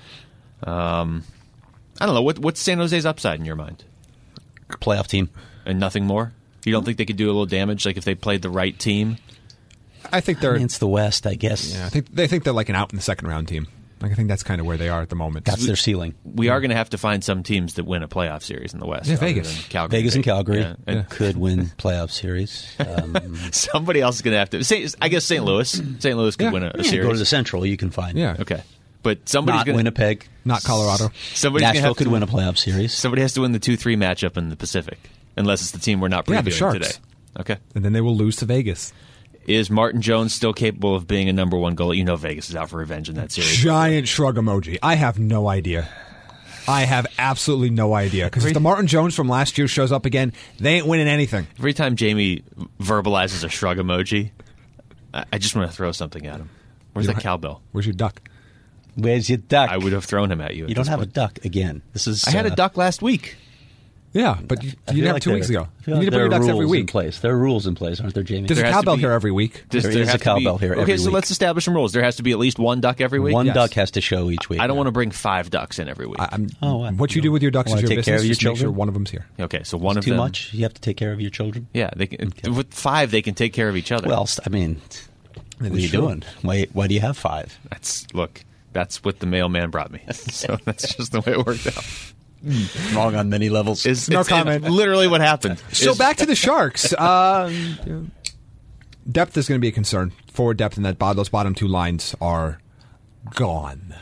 Um, I don't know. What, what's San Jose's upside in your mind? Playoff team. And nothing more? You don't think they could do a little damage, like if they played the right team? I think I they're. mean, it's the West, I guess. Yeah, I think they think they're like an out in the second round team. Like I think that's kind of where they are at the moment. That's their ceiling. We are going to have to find some teams that win a playoff series in the West. Yeah, other Vegas. than Calgary. Vegas and Calgary Yeah. And could win playoff series. Um, somebody else is going to have to. Saint, I guess Saint Louis. Saint Louis could Yeah. win a, a yeah, series. go to the Central, you can find. Yeah. Okay, but somebody's Not going to Winnipeg. Not Colorado. Somebody's gonna Nashville have could to, win a playoff series. Somebody has to win the two three matchup in the Pacific, unless it's the team we're not previewing Yeah, the Sharks. today. Okay. And then they will lose to Vegas. Is Martin Jones still capable of being a number one goalie? You know Vegas is out for revenge in that series. Giant shrug emoji. I have no idea. I have absolutely no idea. Because if the Martin Jones from last year shows up again, they ain't winning anything. Every time Jamie verbalizes a shrug emoji, I, I just want to throw something at him. Where's that cowbell? Where's your duck? Where's your duck? I would have thrown him at you. You don't have point. a duck again. This is. I had uh, a duck last week. Yeah, but you, you didn't have like two weeks there- ago. I feel You like need to put there your are ducks rules every in week. place. There are rules in place, aren't there, Jamie? There's There a has to cowbell be- here every week. Does There there is a have to cowbell be- here Okay, every so week. let's establish some rules. There has to be at least one duck every week. One Yes. duck has to show each week. I don't want to bring five ducks in every week. I, I'm, Oh, what? what you do with your ducks is Wanna your take business. care of your Just make sure children? one of them's here. okay, so one of too them. much. You have to take care of your children. Yeah, they can, with five they can take care of each other. Well, I mean, what are you true. doing? Why? Why do you have five? that's look. That's what the mailman brought me. So that's just the way it worked out. Wrong on many levels. Is No it's- comment. it's literally what happened. So Is- back to the Sharks. Um, depth is going to be a concern. Forward depth in that bottom, those bottom two lines are gone.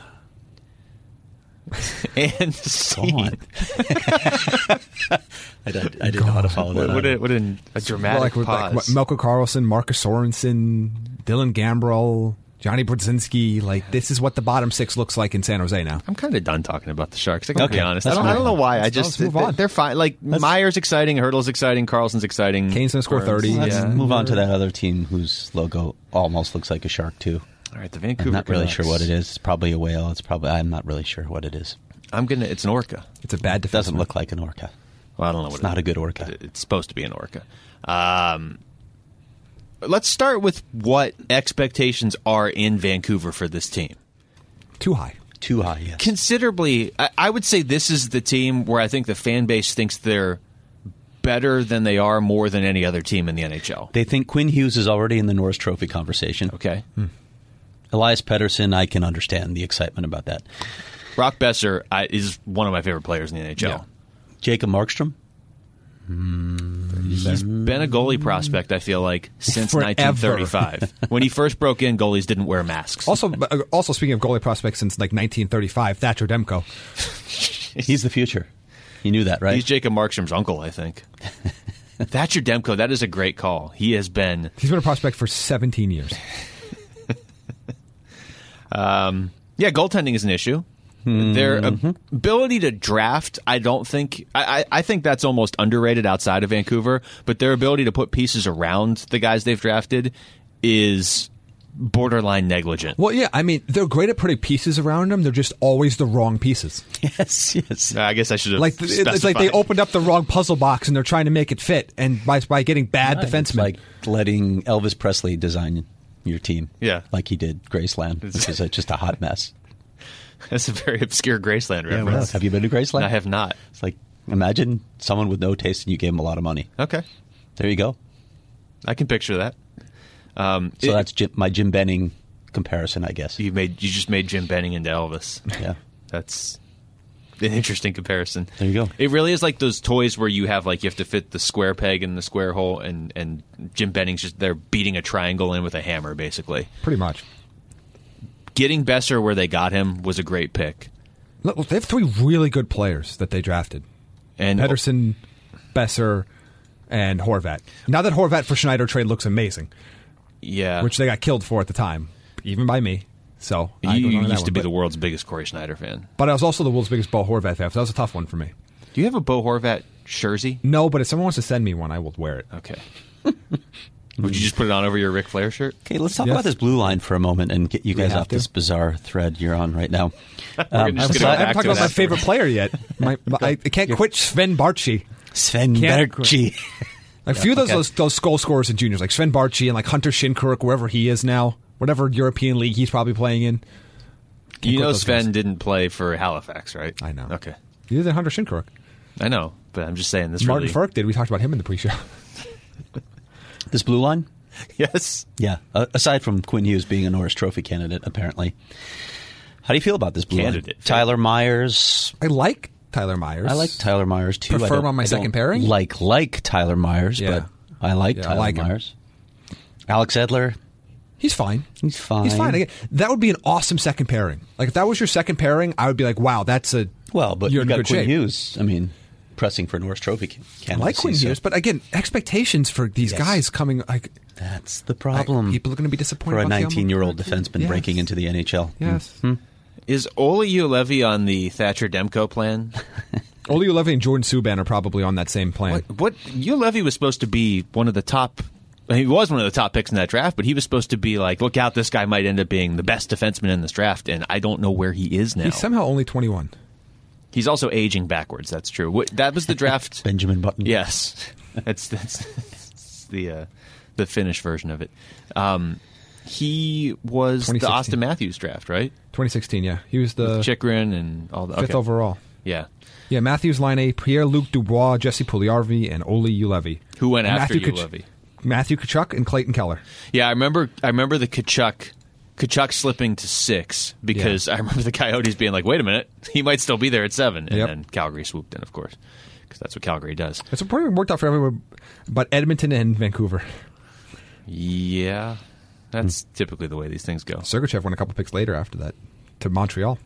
and scene. Gone. I, did, I didn't know how to follow that. What, what, up. a, what an, a dramatic like, with, like pause. what, Melko Carlson, Marcus Sorensen, Dylan Gambrell, Johnny Brodzinski. Like, this is what the bottom six looks like in San Jose now. I'm kind of done talking about the Sharks. I can Okay, be honest. I let's don't, I move don't know on. why. I Let's- just let's move they- on. they're fine. Like Meyer's exciting, Hurdle's exciting, Carlson's exciting. Kane's gonna score Burns, thirty. Let's Yeah. move on to that other team whose logo almost looks like a shark too. All right, the Vancouver. I'm not really Canucks. sure what it is. It's probably a whale. It's probably. I'm not really sure what it is. I'm gonna. It's an orca. It's a bad It defense. doesn't look like an orca. Well, I don't know what It's it not is. a good orca. It- It's supposed to be an orca. Um, let's start with what expectations are in Vancouver for this team. too high. Too high. Yes. Considerably, I, I would say this is the team where I think the fan base thinks they're better than they are more than any other team in the N H L. They think Quinn Hughes is already in the Norris Trophy conversation. Okay. Elias Pettersson, I can understand the excitement about that. Brock Besser I, is one of my favorite players in the N H L. Yeah. Jacob Markstrom. He's been a goalie prospect, I feel like, since Forever. nineteen thirty-five. When he first broke in, goalies didn't wear masks. Also, uh, also speaking of goalie prospects since like nineteen thirty-five, Thatcher Demko. He's the future. You knew that, right? He's Jacob Markstrom's uncle, I think. Thatcher Demko, that is a great call. He has been... He's been a prospect for seventeen years. Um, yeah, goaltending is an issue. Their ab- ability to draft, I don't think. I, I I think that's almost underrated outside of Vancouver. But their ability to put pieces around the guys they've drafted is borderline negligent. Well, yeah, I mean, they're great at putting pieces around them. They're just always the wrong pieces. yes, yes. I guess I should have. Like it's like they specified. opened up the wrong puzzle box and they're trying to make it fit, and by by getting bad Right. It's defensemen. like letting Elvis Presley design your team. Yeah. Like he did Graceland, which is a, just a hot mess. That's a very obscure Graceland Yeah, reference. well, have you been to Graceland? I have not. It's like, imagine someone with no taste and you gave them a lot of money. Okay, There you go. I can picture that. Um, So it- that's Jim, my Jim Benning comparison, I guess. you made. You just made Jim Benning into Elvis. Yeah. That's an interesting comparison. There you go. It really is like those toys where you have like you have to fit the square peg in the square hole, and and Jim Benning's just they're beating a triangle in with a hammer, basically. Pretty much. Getting Besser where they got him was a great pick, Look, they have three really good players that they drafted: and Pedersen, Besser, and Horvat. Now that Horvat for Schneider trade looks amazing, yeah, which they got killed for at the time, even by me. So I you don't know that used to one, be but, the world's biggest Corey Schneider fan. But I was also the world's biggest Bo Horvat fan. So that was a tough one for me. Do you have a Bo Horvat jersey? No, but if someone wants to send me one, I will wear it. Okay. Would you just put it on over your Ric Flair shirt? Okay, let's talk Yes. about this blue line for a moment and get you we guys have off to? this bizarre thread you're on right now. We're Um, just aside- gonna go I back haven't talked to about it my after. favorite player yet. My, my, I, I can't quit Sven Barchi. Sven Can't- Berchi. Like a few of those, okay. those those goal scorers in juniors, like Sven Barchi and like Hunter Shinkaruk, wherever he is now, whatever European league he's probably playing in. You quit know those Sven guys. didn't play for Halifax, right? I know. Okay. Neither did Hunter Shinkaruk. I know, but I'm just saying this Martin really... Ferk did. We talked about him in the pre-show. This blue line? Yes. Yeah. Uh, aside from Quinn Hughes being a Norris Trophy candidate, apparently. How do you feel about this blue Candidate. line? Tyler Myers. I like Tyler Myers. I like Tyler Myers too. Prefer I him don't- on my I second don't pairing? Like like Tyler Myers, Yeah. but I like Yeah, I Tyler like him. Myers. Alex Edler. He's fine. He's fine. He's fine. Again, that would be an awesome second pairing. Like if that was your second pairing, I would be like, wow, that's a Well, but you're you in got good Quinn shape. Hughes. I mean, pressing for Norris Trophy candidacy. I like Quinn so Hughes, but again, expectations for these Yes. guys coming, like, that's the problem. like, people are going to be disappointed for a about Thiago nineteen-year-old Montgomery. defenseman Yes. breaking into the N H L. Yes. Hmm. Is Ole Ulevi on the Thatcher Demko plan? Ole Ulevi and Jordan Subban are probably on that same plan. What, what Ulevi was supposed to be one of the top. He was one of the top picks in that draft, but he was supposed to be like, look out, this guy might end up being the best defenseman in this draft, and I don't know where he is now. He's somehow only twenty-one. He's also aging backwards. That's true. What, that was the draft. Benjamin Button. Yes, that's that's, that's the uh, the Finnish version of it. Um, he was the twenty sixteen. Austin Matthews draft, right? twenty sixteen, yeah. He was the Chikrin and all the fifth okay. overall. Yeah, Yeah, Matthews, Laine, Pierre-Luc Dubois, Jesse Pugliarvi, and Ole Ulevi. who went And after Matthew Kach- Ulevi? Matthew Kachuk and Clayton Keller. Yeah, I remember. I remember the Kachuk, Kachuk slipping to six because Yeah. I remember the Coyotes being like, "Wait a minute, he might still be there at seven. And Yep. then Calgary swooped in, of course, because that's what Calgary does. It's probably worked out for everyone but Edmonton and Vancouver. Yeah, that's typically the way these things go. Sergachev went a couple picks later after that to Montreal.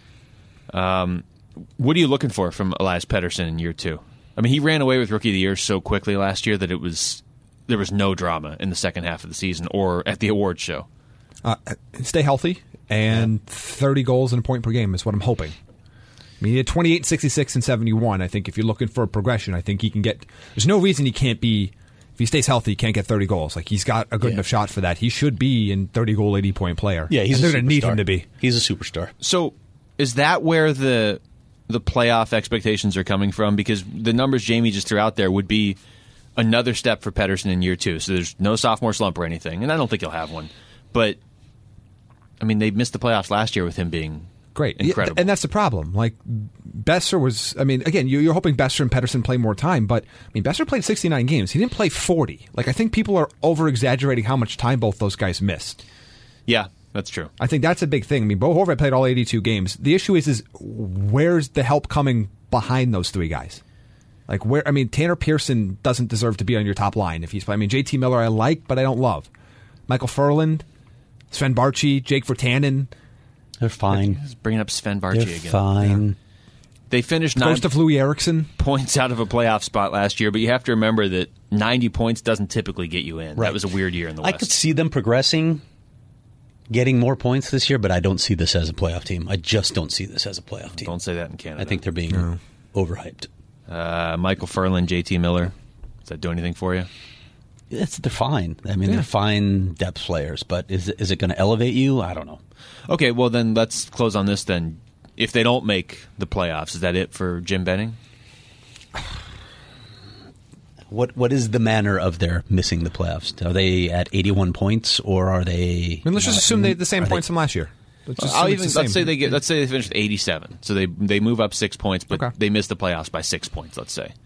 What are you looking for from Elias Pettersson in year two? I mean, he ran away with Rookie of the Year so quickly last year that it was there was no drama in the second half of the season or at the awards show. Uh, stay healthy, and thirty goals and a point per game is what I'm hoping. I mean, he had twenty-eight, sixty-six, and seventy-one. I think if you're looking for a progression, I think he can get... There's no reason he can't be... If he stays healthy, he can't get thirty goals. Like, he's got a good Yeah. enough shot for that. He should be in thirty-goal, eighty-point player. Yeah, he's and a they're going to need superstar. him to be. He's a superstar. So, is that where the the playoff expectations are coming from? Because the numbers Jamie just threw out there would be another step for Pettersson in year two. So there's no sophomore slump or anything, and I don't think he'll have one. But I mean, they missed the playoffs last year with him being Great. incredible. Yeah, and that's the problem. Like, Besser was... I mean, again, you- you're hoping Besser and Pedersen play more time, but, I mean, Besser played sixty-nine games. He didn't play forty. Like, I think people are over-exaggerating how much time both those guys missed. yeah, that's true. I think that's a big thing. I mean, Bo Horvat played all eighty-two games. The issue is, is where's the help coming behind those three guys? Like, where? I mean, Tanner Pearson doesn't deserve to be on your top line if he's playing. I mean, J T Miller I like, but I don't love. Michael Furland, Sven Barchi, Jake Virtanen, They're fine. Just bringing up Sven They're Barchi again. fine. They finished nine most of Louis Erickson. points out of a playoff spot last year, but you have to remember that ninety points doesn't typically get you in. Right. That was a weird year in the I West. could see them progressing, getting more points this year, but I don't see this as a playoff team. I just don't see this as a playoff team. Don't say that in Canada. I think they're being overhyped. uh, Michael Furland, J T Miller. Does that do anything for you? It's, they're fine. I mean, Yeah. they're fine depth players, but is is it going to elevate you? I don't know. Okay, well then let's close on this then. If they don't make the playoffs, is that it for Jim Benning? What what is the manner of their missing the playoffs? Are they at eighty-one points, or are they? I mean, let's just assume they had the same Are they- points from last year. Let's just I'll assume even it's the let's same. say they get let's say they finish with eighty-seven, so they they move up six points, but Okay. they miss the playoffs by six points. Let's say.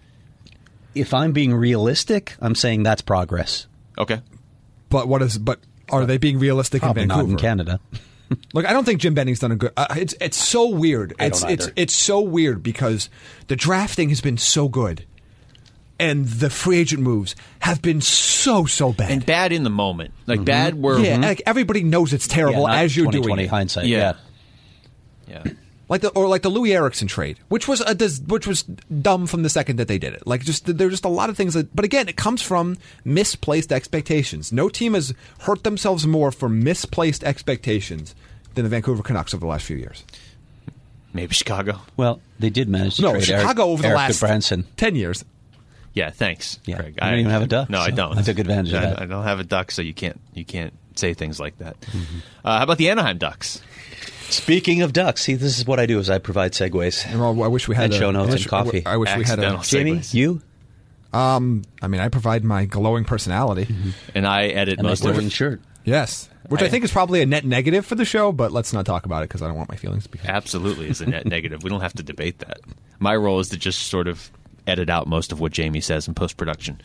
If I'm being realistic, I'm saying that's progress. Okay. But what is? But are they being realistic Probably in not Vancouver? in Canada. Look, I don't think Jim Benning's done a good. Uh, it's it's so weird. I It's don't it's either. it's so weird because the drafting has been so good, and the free agent moves have been so so bad. And bad in the moment, like bad where yeah, like everybody knows it's terrible Yeah, not as you're twenty doing twenty it. hindsight. yeah, Yeah. yeah. Like the or like the Louis Erickson trade, which was a dis- which was dumb from the second that they did it. Like just there's just a lot of things that, but again, it comes from misplaced expectations. No team has hurt themselves more for misplaced expectations than the Vancouver Canucks over the last few years. Maybe Chicago. Well, they did manage to No, trade Chicago Eric, over the Eric last Branson. ten years. Yeah, thanks, Yeah. Craig. You don't even have a duck, No, I so don't. I took advantage of I, that. I don't have a duck, so you can't you can't say things like that. Mm-hmm. Uh, how about the Anaheim Ducks? Speaking of ducks, see, this is what I do: is I provide segues. Well, I wish we had And a, show notes I wish, and coffee. I wish we had a. Accidental Jamie, segues. you Um, I mean, I provide my glowing personality. And I edit and my most of glowing it. shirt. Yes, which I, think is probably a net negative for the show, but let's not talk about it because I don't want my feelings to be hurt. Absolutely is a net negative. We don't have to debate that. My role is to just sort of edit out most of what Jamie says in post production.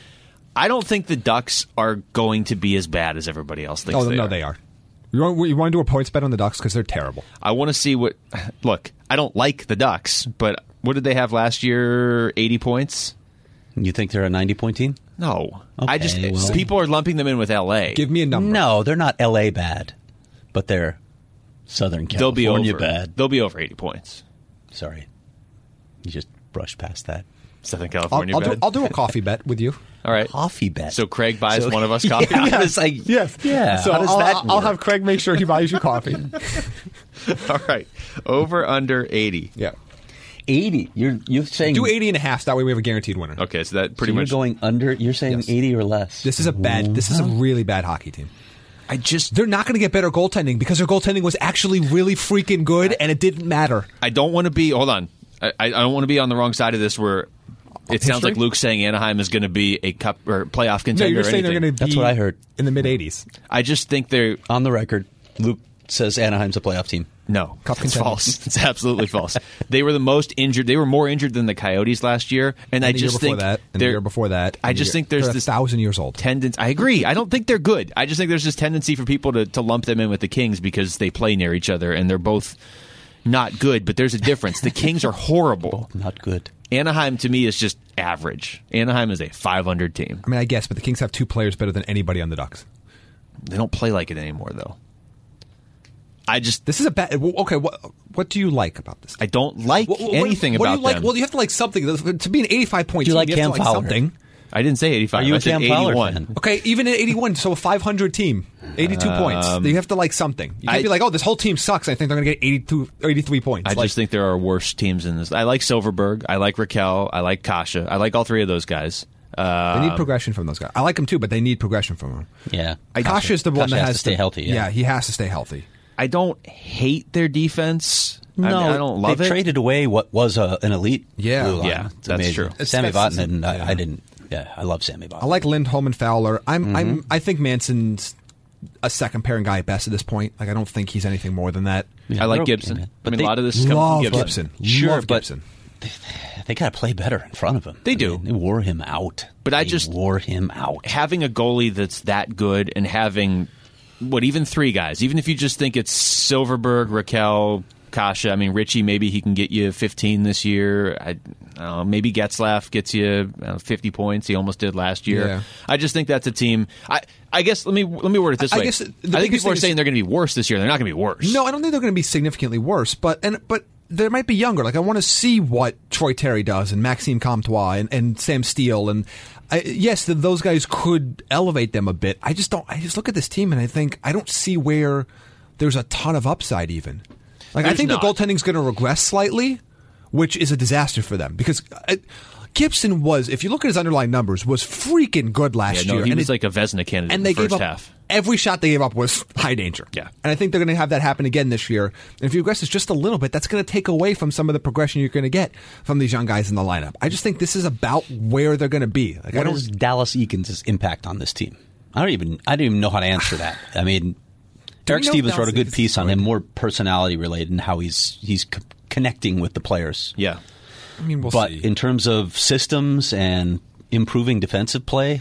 I don't think the Ducks are going to be as bad as everybody else thinks Oh they no, are. they are. You want, you want to do a points bet on the Ducks because they're terrible. I want to see what. Look, I don't like the Ducks, but what did they have last year? eighty points? You think they're a ninety-point team? No. I just Okay, well- people are lumping them in with L A. Give me a number. No, they're not L A bad, but they're Southern They'll be California over. bad. They'll be over eighty points. Sorry, you just brushed past that. Southern California I'll, I'll, bet. do, I'll do a coffee bet with you. All right. Coffee bet. So Craig buys So- one of us coffee. Yeah, it's like, Yes. yeah. So how does I'll, that I'll, I'll work? have Craig make sure he buys you coffee. All right. Over under eighty. Yeah. eighty. You're you're saying Do eighty and a half. That way we have a guaranteed winner. Okay, so that so pretty you're much. going under. You're saying Yes. eighty or less. This is a bad. This is a really bad hockey team. I just. They're not going to get better goaltending because their goaltending was actually really freaking good, and it didn't matter. I don't want to be. Hold on. I, I don't want to be on the wrong side of this where. It sounds History? like Luke's saying Anaheim is going to be a cup or playoff No, contender. you're or saying they're anything. going to be. That's what I heard. in the mid eighties. I just think they're On the record, Luke says Anaheim's a playoff team. no. Cup It's contender. false. It's absolutely false. They were the most injured. They were more injured than the Coyotes last year, and, I And the year just before think that, and the they're- year before that. I and the just year- think there's they're this a thousand years old. tendency. I agree. I don't think they're good. I just think there's this tendency for people to, to lump them in with the Kings because they play near each other and they're both not good. But there's a difference. The Kings are horrible. Not good. Anaheim to me is just average. Anaheim is a five hundred team. I mean, I guess, but the Kings have two players better than anybody on the Ducks. They don't play like it anymore, though. I just This is a bad. well, Okay, what what do you like about this? I don't like What- what- anything what about do you like? them. Well, you have to like something to be an eighty-five point Do you team. like you have Cam to like Fowler? something. I didn't say eighty-five. Are you I a said Cam Fowler eighty-one. fan? Okay, even at eighty-one, so a five hundred team, eighty-two points. You have to like something. You can't I- be like, oh, this whole team sucks. I think they're going to get eighty-two, eighty-three points. I Like, just think there are worse teams in this. I like Silverberg. I like Raquel. I like Kasha. I like all three of those guys. Uh, they need progression from those guys. I like them too, but they need progression from them. Yeah. Kasha's the one Kasha that has has to stay healthy, yeah. he has to stay healthy. I don't hate their defense. No, I, mean, I don't love they've it. traded away what was a, an elite Yeah. blue line. Yeah, It's that's amazing. true. It's- Sammy that's- Vatanen, I, yeah. I didn't. Yeah, I love Sammy Vatanen. I like Lindholm and Fowler. I'm, Mm-hmm. I'm, I think Manson's a second pairing guy at best at this point. Like, I don't think he's anything more than that. Yeah, I like they're okay, Gibson. man. I But mean, they a lot of this is coming Love from Gibson. Gibson. Sure, Love but- Gibson. They got to play better in front of him. They I do. mean, they wore him out. But I They just- wore him out. Having a goalie that's that good and having, what, even three guys, even if you just think it's Silverberg, Raquel, Kasha, I mean, Richie, maybe he can get you fifteen this year. I, I don't know, maybe Getzlaff gets you I don't know, fifty points. He almost did last year. Yeah. I just think that's a team. I, I guess let me let me word it this I way. guess the I think biggest people are thing saying is- they're going to be worse this year. They're not going to be worse. No, I don't think they're going to be significantly worse, but and but they might be younger. Like, I want to see what Troy Terry does and Maxime Comtois and, and Sam Steele and I, yes, th those guys could elevate them a bit. I just don't. I just look at this team and I think I don't see where there's a ton of upside even. Like, I There's think not. the goaltending's going to regress slightly, which is a disaster for them because. I, Gibson was, if you look at his underlying numbers, was freaking good last Yeah, no, year. he and was it- like a Vezina candidate and in they the first gave up half. every shot they gave up was high danger. Yeah. And I think they're going to have that happen again this year. And if you aggress just a little bit, that's going to take away from some of the progression you're going to get from these young guys in the lineup. I just think this is about where they're going to be. Like, I What don't. is Dallas Eakins' impact on this team? I don't even. I don't even know how to answer that. I mean, Eric know Stevens if wrote a Dallas good Eakins piece is on good? him, more personality related, and how he's he's co- connecting with the players. Yeah. I mean, we'll but see. in terms of systems and improving defensive play,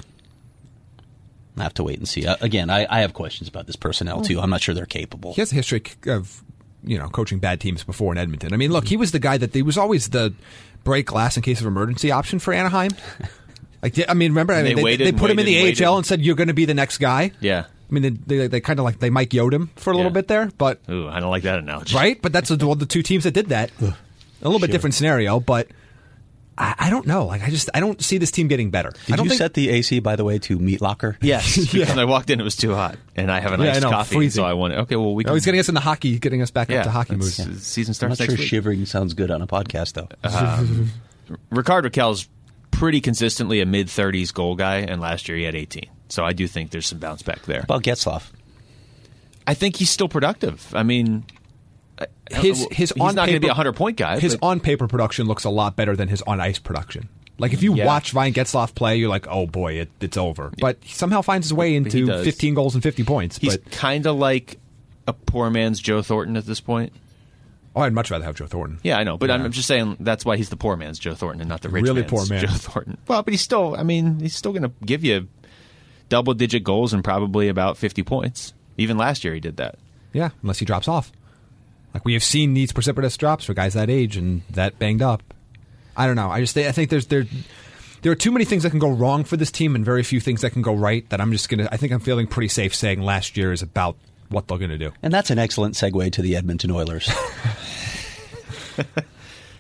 I have to wait and see. Uh, again, I, I have questions about this personnel too. I'm not sure they're capable. He has a history of, you know, coaching bad teams before in Edmonton. I mean, look, he was the guy that he was always the break glass in case of emergency option for Anaheim. Like, I mean, remember, I And mean, they they, waited they and put him in the waited and A H L waited. and said, you're going to be the next guy. Yeah. I mean, they, they, they kind of like, they Mike Yo'd him for a little Yeah. bit there, but, Ooh, I don't like that analogy. right? But that's the, the two teams that did that. A little bit different scenario, but I, I don't know. Like, I just, I don't see this team getting better. I Did don't you think, set the A C, by the way, to meat locker? Yes, because I walked in, it was too hot, and I have an Yeah, I iced know, coffee, freezing. so I wanted. Okay, well, we can. oh, he's getting us into hockey, getting us back yeah, up to hockey that's- moves. the Season I'm starts not next sure week. shivering sounds good on a podcast, though. Ricard Raquel's pretty consistently a mid thirties goal guy, and last year he had eighteen. So I do think there's some bounce back there. About Getzlaff. I think he's still productive. I mean, I- I don't His know, his he's on not going to be paper- a hundred point guy. His but- on paper production looks a lot better than his on ice production. Like, if you Yeah. watch Ryan Getzlaff play, you're like, oh boy, it, it's over. But he somehow finds his way he into does. fifteen goals and fifty points. he's But kind of like a poor man's Joe Thornton at this point. oh, I'd much rather have Joe Thornton. Yeah, I know, but Yeah. I'm just saying that's why he's the poor man's Joe Thornton and not the rich Really man's poor man. Joe Thornton. Well, but he's still, I mean, he's still going to give you double digit goals and probably about fifty points. Even last year he did that. Yeah, unless he drops off. Like, we have seen these precipitous drops for guys that age and that banged up. I don't know. I just I think there's there there are too many things that can go wrong for this team and very few things that can go right. That I'm just gonna. I think I'm feeling pretty safe saying last year is about what they're gonna do. And that's an excellent segue to the Edmonton Oilers.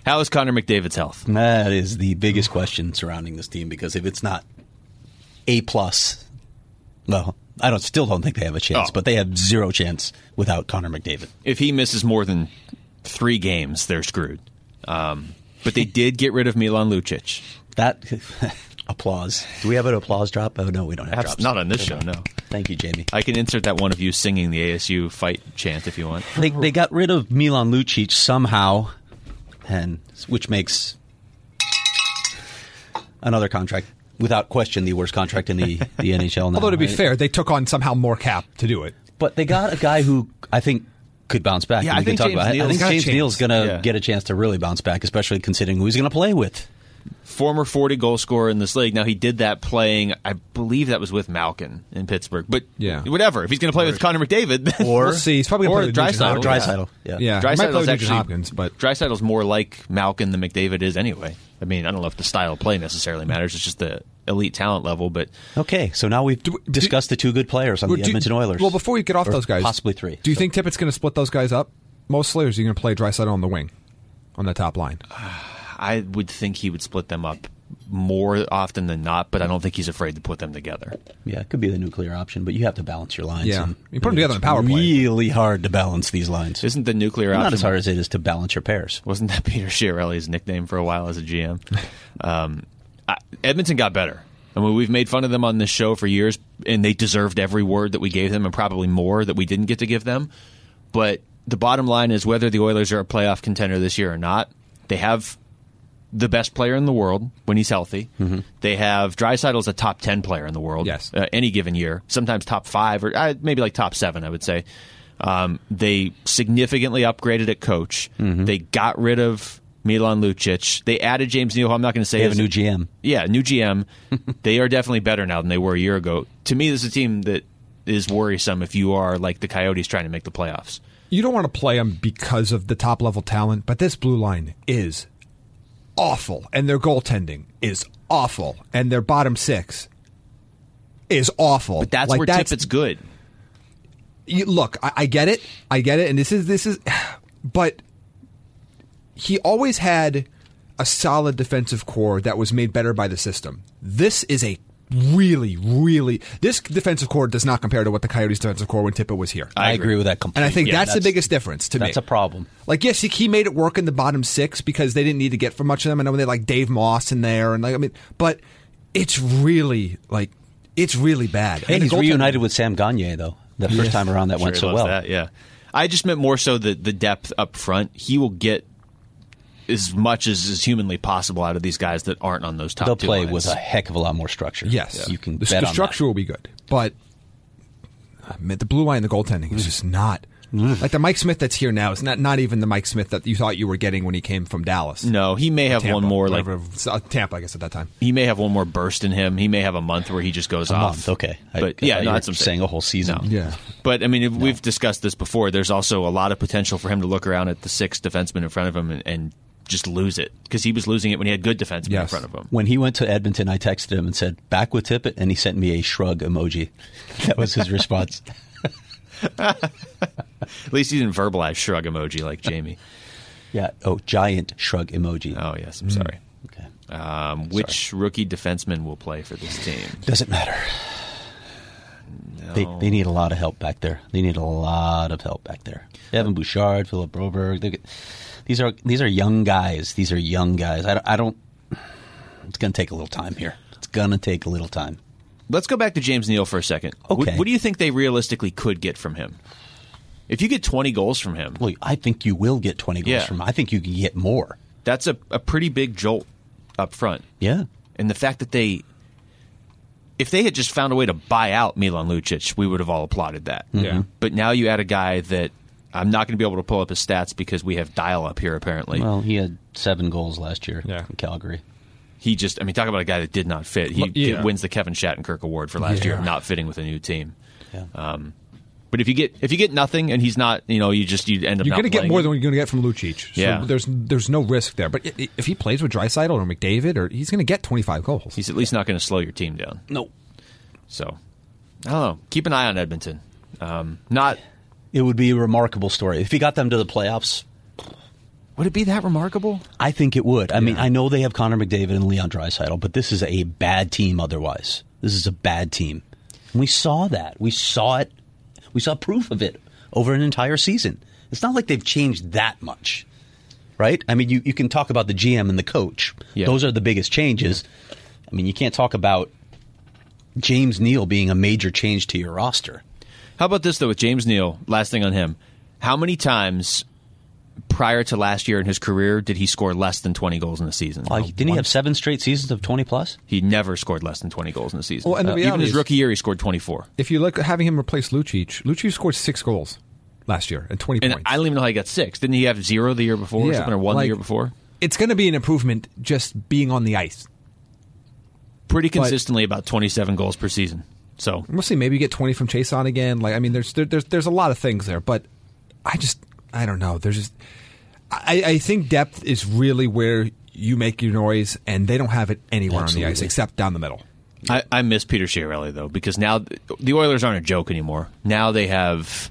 How is Connor McDavid's health? That is the biggest question surrounding this team, because if it's not A plus, well, I don't still don't think they have a chance, Oh. but they have zero chance without Connor McDavid. If he misses more than three games, they're screwed. Um, but they did get rid of Milan Lucic. That applause. Do we have an applause drop? Oh no, we don't have That's drops. not on this show, no. Thank you, Jamie. I can insert that one of you singing the A S U fight chant if you want. They they got rid of Milan Lucic somehow, and which makes another contract, without question, the worst contract in the, the N H L now. Although to be right? fair, they took on somehow more cap to do it. But they got a guy who I think could bounce back. Yeah, and I we think can talk James about it. I Neal's think got a James chance. Neal's going to Yeah. get a chance to really bounce back, especially considering who he's going to play with. Former forty-goal scorer in this league. Now, he did that playing, I believe that was with Malkin in Pittsburgh. But Yeah. whatever. If he's going to play with Connor McDavid, then Or We'll see. He's probably going or to play with Nugent Draisaitl. Hopkins. Draisaitl. Yeah. Yeah, he might play Draisaitl's with Nugent actually Hopkins, but Draisaitl's more like Malkin than McDavid is anyway. I mean, I don't know if the style of play necessarily matters. It's just the elite talent level. But Okay, so now we've Do- discussed the two good players on Well, the do- Edmonton Oilers. Well, before we get off Or those guys, possibly three. Do you So- think Tippett's going to split those guys up mostly, or is he going to play Draisaitl on the wing, on the top line? I would think he would split them up more often than not, but I don't think he's afraid to put them together. Yeah, it could be the nuclear option, but you have to balance your lines. Yeah. and You put them together on it's a power play. really hard to balance these lines. Isn't the nuclear Not option as hard as it is to balance your pairs. Wasn't that Peter Chiarelli's nickname for a while as a G M? um, I, Edmonton got better. I mean, we've made fun of them on this show for years, and they deserved every word that we gave them, and probably more that we didn't get to give them. But the bottom line is, whether the Oilers are a playoff contender this year or not, they have the best player in the world when he's healthy. Mm-hmm. They have Draisaitl's a top ten player in the world. Yes. uh, any given year, sometimes top five or uh, maybe like top seven, I would say. Um, they significantly upgraded at coach. Mm-hmm. They got rid of Milan Lucic. They added James Neal, who I'm not going to say They have is a new G M. Yeah, new G M. They are definitely better now than they were a year ago. To me, this is a team that is worrisome if you are like the Coyotes trying to make the playoffs. You don't want to play them because of the top level talent, but this blue line is awful, and their goaltending is awful, and their bottom six is awful. But that's Like, where Tippett's good. You, look, I, I get it, I get it, and this is this is, but he always had a solid defensive core that was made better by the system. This is a really, really this defensive core does not compare to what the Coyotes' defensive core when Tippett was here. I, agree. agree with that and completely. I think Yeah, that's, the biggest difference to me. That's a problem. Like, yes, he, he made it work in the bottom six because they didn't need to get for much of them. I know they had, like Dave Moss in there, and like I mean, but it's really like it's really bad. Hey, And the he's goaltending- reunited with Sam Gagne, though. The first time around that Sure went he so loves well. that, yeah. I just meant more so the, the depth up front. He will get as much as is humanly possible out of these guys that aren't on those top They'll two play lines. with a heck of a lot more structure. Yes, You can the, bet the on structure that. will be good, but uh, man, the blue line and the goaltending is just not like the Mike Smith that's here now. Is not not even the Mike Smith that you thought you were getting when he came from Dallas. No, he may have Tampa, one more like whatever, uh, Tampa, I guess at that time. he may have one more burst in him. He may have a month where he just goes A off. month, okay. I- But I yeah, thought no, you that's were what I'm saying a whole season. No. Yeah. But I mean, if we've discussed this before. There's also a lot of potential for him to look around at the six defensemen in front of him and, and just lose it, because he was losing it when he had good defensemen in Yes. front of him. When he went to Edmonton, I texted him and said, back with Tippett, and he sent me a shrug emoji. That was his response. At least he didn't verbalize shrug emoji like Jamie. Yeah. Oh, giant shrug emoji. Oh yes, I'm sorry. Okay. Um, which rookie defenseman will play for this team? Doesn't matter. They, they need a lot of help back there. They need a lot of help back there. Evan Bouchard, Philip Broberg. they- These are these are young guys. These are young guys. I, don't- I don't. It's going to take a little time here. It's going to take a little time. Let's go back to James Neal for a second. What, Okay. what do you think they realistically could get from him? If you get twenty goals from him, Well, I think you will get twenty goals Yeah. from him. I think you can get more. that's a, a pretty big jolt up front. Yeah. And the fact that they, if they had just found a way to buy out Milan Lucic, we would have all applauded that. Yeah. But now you add a guy that I'm not going to be able to pull up his stats because we have dial up here, apparently. Well, he had seven goals last year Yeah. in Calgary. He just, I mean, talk about a guy that did not fit. He Well, yeah. wins the Kevin Shattenkirk Award for last year Yeah. of not fitting with a new team. Yeah. Um, but if you get if you get nothing and he's not, you know, you just you end up You're not going to get playing more him. than what you're going to get from Lucic. So Yeah. there's there's no risk there. But i- if he plays with Draisaitl or McDavid, or he's going to get twenty-five goals. He's at least not going to slow your team down. No. So, I don't know. Keep an eye on Edmonton. Um, not It would be a remarkable story. If he got them to the playoffs, Would it be that remarkable? I think it would. I yeah. mean, I know they have Connor McDavid and Leon Draisaitl, but this is a bad team otherwise. This is a bad team. And we saw that. We saw it. We saw proof of it over an entire season. It's not like they've changed that much, right? I mean, you, you can talk about the G M and the coach. Yeah. Those are the biggest changes. Yeah. I mean, you can't talk about James Neal being a major change to your roster. How about this, though, with James Neal? Last thing on him. How many times prior to last year in his career did he score less than twenty goals in a season? Uh, didn't he have seven straight seasons of twenty plus? He never scored less than twenty goals in a season. Well, and the uh, even his is, rookie year, he scored twenty-four. If you look at having him replace Lucic, Lucic scored six goals last year and twenty and points. I don't even know how he got six. Didn't he have zero the year before yeah, or something, or one like, the year before? It's going to be an improvement just being on the ice. Pretty consistently but, about twenty-seven goals per season. So we'll see. Maybe you get twenty from Chase on again. Like I mean, there's there, there's there's a lot of things there, but I just I don't know. There's just I, I think depth is really where you make your noise, and they don't have it anywhere Absolutely. on the ice except down the middle. I, I miss Peter Chiarelli though, because now the Oilers aren't a joke anymore. Now they have.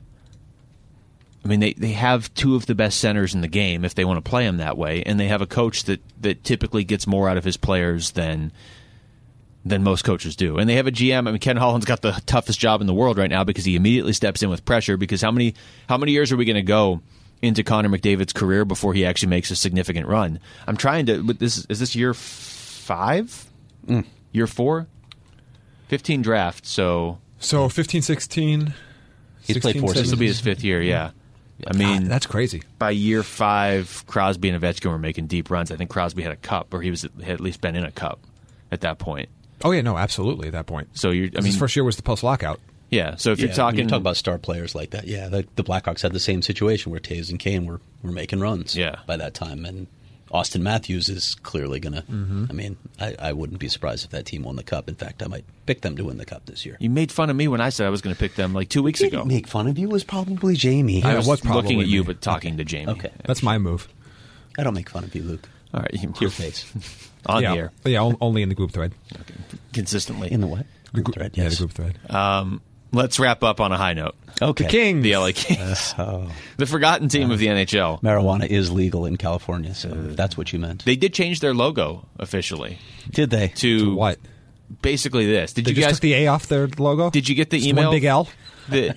I mean, they, they have two of the best centers in the game if they want to play them that way, and they have a coach that, that typically gets more out of his players than than most coaches do. And they have a G M. I mean, Ken Holland's got the toughest job in the world right now because he immediately steps in with pressure, because how many how many years are we going to go into Connor McDavid's career before he actually makes a significant run? I'm trying to... But this is this year five? Mm. Year four? fifteen draft, so... So fifteen, sixteen... He's played four seasons. This will be his fifth year, yeah. I mean... God, that's crazy. By year five, Crosby and Ovechkin were making deep runs. I think Crosby had a cup, or he was had at least been in a cup at that point. Oh, yeah, no, absolutely at that point. So you're, I mean, his first year was the post-lockout. Yeah, so if yeah, you're talking... When you talk about star players like that, yeah, the, the Blackhawks had the same situation where Taves and Kane were, were making runs yeah. by that time. And Austin Matthews is clearly going to... Mm-hmm. I mean, I, I wouldn't be surprised if that team won the Cup. In fact, I might pick them to win the Cup this year. You made fun of me when I said I was going to pick them like two weeks Didn't ago. make fun of you. It was probably Jamie. I was, was looking at you, me. but talking okay. to Jamie. Okay. That's my move. I don't make fun of you, Luke. All right. To your face. On yeah, the air. Yeah, only in the group thread. Okay. Consistently. In the what? Group group thread, Yeah, yes. the group thread. Um, let's wrap up on a high note. Okay. The Kings. The L A Kings. Uh, oh. The forgotten team uh, of the N H L. Marijuana is legal in California, so uh, that's what you meant. They did change their logo officially. Did they? To, to what? Basically this. Did they you just guys took the A off their logo? Did you get the just email? One big L? The,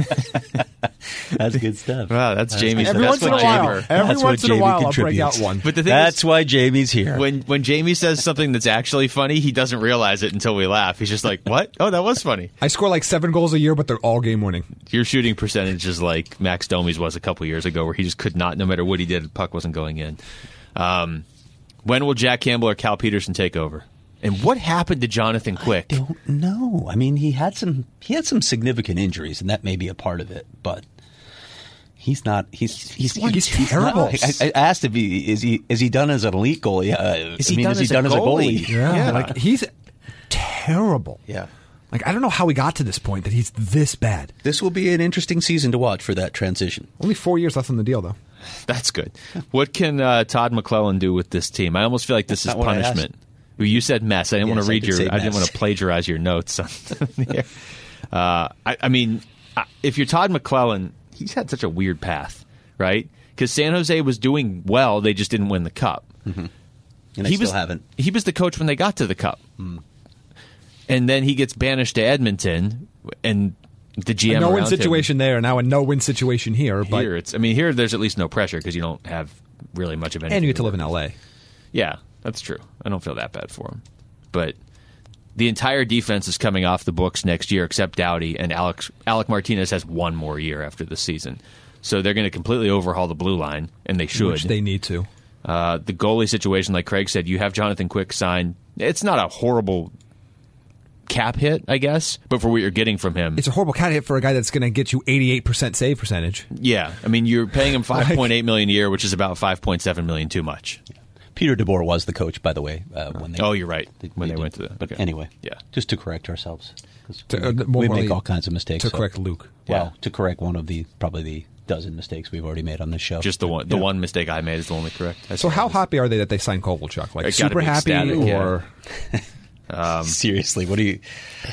that's good stuff. Wow, that's, that's Jamie's. Every that's once in a what while, Jamie, every that's once what in a Jamie while, I'll break contributes. out one. But the thing That's is, why Jamie's here. When when Jamie says something that's actually funny, he doesn't realize it until we laugh. He's just like, "What? Oh, that was funny." I score like seven goals a year, but they're all game winning. Your shooting percentage is like Max Domi's was a couple years ago, where he just could not, no matter what he did, the puck wasn't going in. Um, when will Jack Campbell or Cal Peterson take over? And what happened to Jonathan Quick? I don't know. I mean, he had some he had some significant injuries, and that may be a part of it. But he's not. He's he's, He's he's, he's terrible. Not, I, I asked if he is he is he done as an elite goalie? Uh, Is he I mean, done is he as a done as a goalie? goalie? Yeah, Yeah. like he's terrible. Yeah. Like I don't know how we got to this point that he's this bad. This will be an interesting season to watch for that transition. Only four years left on the deal, though. That's good. What can uh, Todd McClellan do with this team? I almost feel like this That's is not what I punishment. Well, you said mess. I didn't Yes, want to I read did your. say I didn't mess. want to plagiarize your notes. On the uh, I, I mean, if you're Todd McClellan, he's had such a weird path, right? Because San Jose was doing well, they just didn't win the cup. Mm-hmm. And they he still was, haven't. He was the coach when they got to the cup, Mm. and then he gets banished to Edmonton, and the G M A no-win around situation there, now a no-win situation here. him, But here, it's. I mean, here there's at least no pressure because you don't have really much of anything. and you get to work live in L A. Yeah, that's true. I don't feel that bad for him. But the entire defense is coming off the books next year, except Doughty, and Alex, Alec Martinez has one more year after the season. So they're going to completely overhaul the blue line, and they should. Which they need to. Uh, the goalie situation, like Craig said, you have Jonathan Quick signed. It's not a horrible cap hit, I guess, but for what you're getting from him. It's a horrible cat hit for a guy that's going to get you eighty-eight percent save percentage. Yeah. I mean, you're paying him five point eight million dollars a year, which is about five point seven million dollars too much. Peter DeBoer was the coach, by the way, uh, when they. Oh, you're right. They, when they, did. went to the. But okay. anyway, Yeah. just to correct ourselves. 'Cause To, we uh, make, more we importantly, make all kinds of mistakes. To so- correct Luke. Well, Yeah. to correct one of the probably the dozen mistakes we've already made on this show. Just the one. The Yeah. one mistake I made is the only correct. I So how suppose. happy are they that they signed Kovalchuk? Like They gotta super be happy, ecstatic, yeah. or Um, Seriously, what do you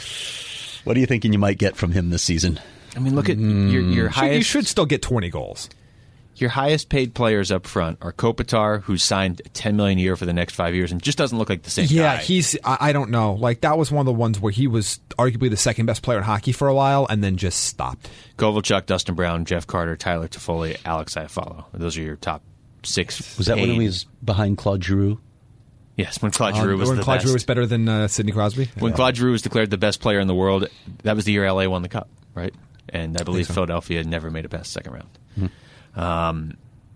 what are you thinking you might get from him this season? I mean, look at your your Should- highest. you should still get twenty goals. Your highest paid players up front are Kopitar, who's signed ten million dollars a year for the next five years and just doesn't look like the same yeah, guy. Yeah, he's. I, I don't know. Like that was one of the ones where he was arguably the second best player in hockey for a while, and then just stopped. Kovalchuk, Dustin Brown, Jeff Carter, Tyler Toffoli, Alex Iafallo. Those are your top six. Was that paid. when he was behind Claude Giroux? Yes, when Claude Uh, Giroux was when the Claude best. Giroux was better than uh, Sidney Crosby. When Yeah. Claude Giroux was declared the best player in the world, that was the year L A won the Cup, right? And I believe so. Philadelphia never made it past the second round. Mm-hmm. Um,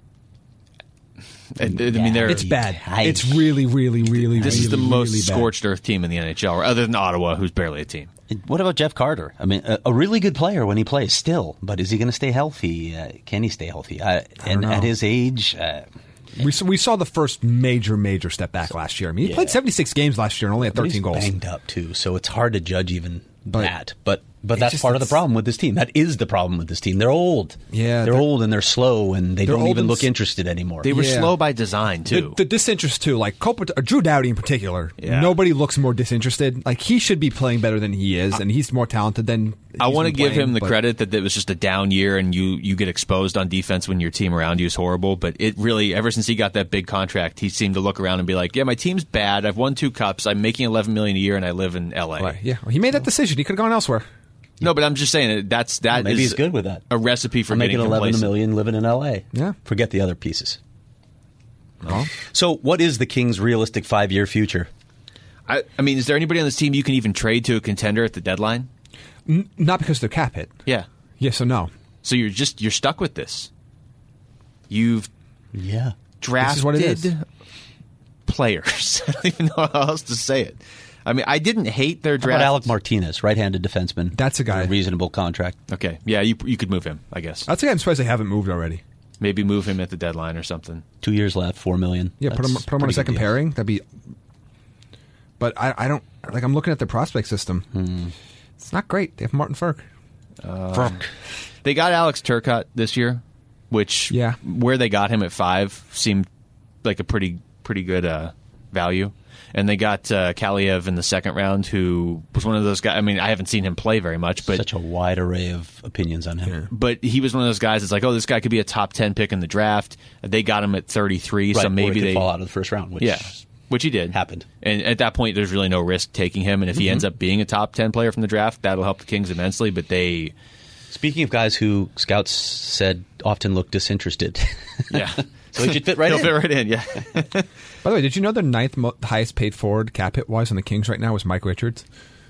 I, I mean, they're, It's bad. Yikes. It's really, really, really. this really, is the most really bad. scorched earth team in the N H L, other than Ottawa, who's barely a team. What about Jeff Carter? I mean, a, a really good player when he plays still, but is he going to stay healthy? Uh, can he stay healthy? Uh, and know. at his age, uh, We saw, we saw the first major, major step back last year. I mean, he Yeah. played seventy-six games last year and only had but he's thirteen goals. banged up too, so it's hard to judge even But- that. But but It that's just- part of the it's- problem with this team. That is the problem with this team. They're old. Yeah, they're, they're- old and they're slow and they they're don't old even and look s- interested anymore. They were Yeah. slow by design, too. The, the disinterest too, like Kopitar, Drew Doughty in particular. Yeah. Nobody looks more disinterested. Like he should be playing better than he is, and he's more talented than. I he's want to been give playing, him the but- credit that it was just a down year and you, you get exposed on defense when your team around you is horrible. But it really, ever since he got that big contract, he seemed to look around and be like, yeah, my team's bad. I've won two cups. I'm making eleven million dollars a year and I live in L A. Right, yeah, he made that decision. He could have gone elsewhere. No, but I'm just saying that that's that Maybe is he's good with that. a recipe for I'm getting making eleven complacent. million living in L A. Yeah. Forget the other pieces. Oh. So, what is the Kings' realistic five-year future? I, I mean, is there anybody on this team you can even trade to a contender at the deadline? N- not because they're cap hit. Yeah. Yes or no? So you're just you're stuck with this. You've Yeah. drafted is what it is. players. I don't even know how else to say it. I mean, I didn't hate their How about draft. Alec Martinez, right-handed defenseman? That's a guy. A reasonable contract. Okay, yeah, you you could move him, I guess. That's why I'm surprised they haven't moved already. Maybe move him at the deadline or something. Two years left, four million. Yeah, put him That's put him on a pretty second good deal. pairing. That'd be. But I, I don't like. I'm looking at their prospect system. Hmm. It's not great. They have Martin Ferk. They got Alex Turcotte this year, which Yeah. where they got him at five seemed like a pretty pretty good uh, value. And they got uh, Kaliev in the second round, who was one of those guys. I mean, I haven't seen him play very much, but Such a wide array of opinions on him. but he was one of those guys that's like, oh, this guy could be a top ten pick in the draft. They got him at thirty-three, Right, so or maybe he could they fall out of the first round, which yeah, which he did happened. And at that point, there's really no risk taking him. And if he ends up being a top ten player from the draft, that'll help the Kings immensely. But they, Speaking of guys who scouts said often look disinterested. yeah, So he should fit right he'll in. fit right in. Yeah. By the way, did you know the ninth mo- highest paid forward cap hit wise on the Kings right now was Mike Richards?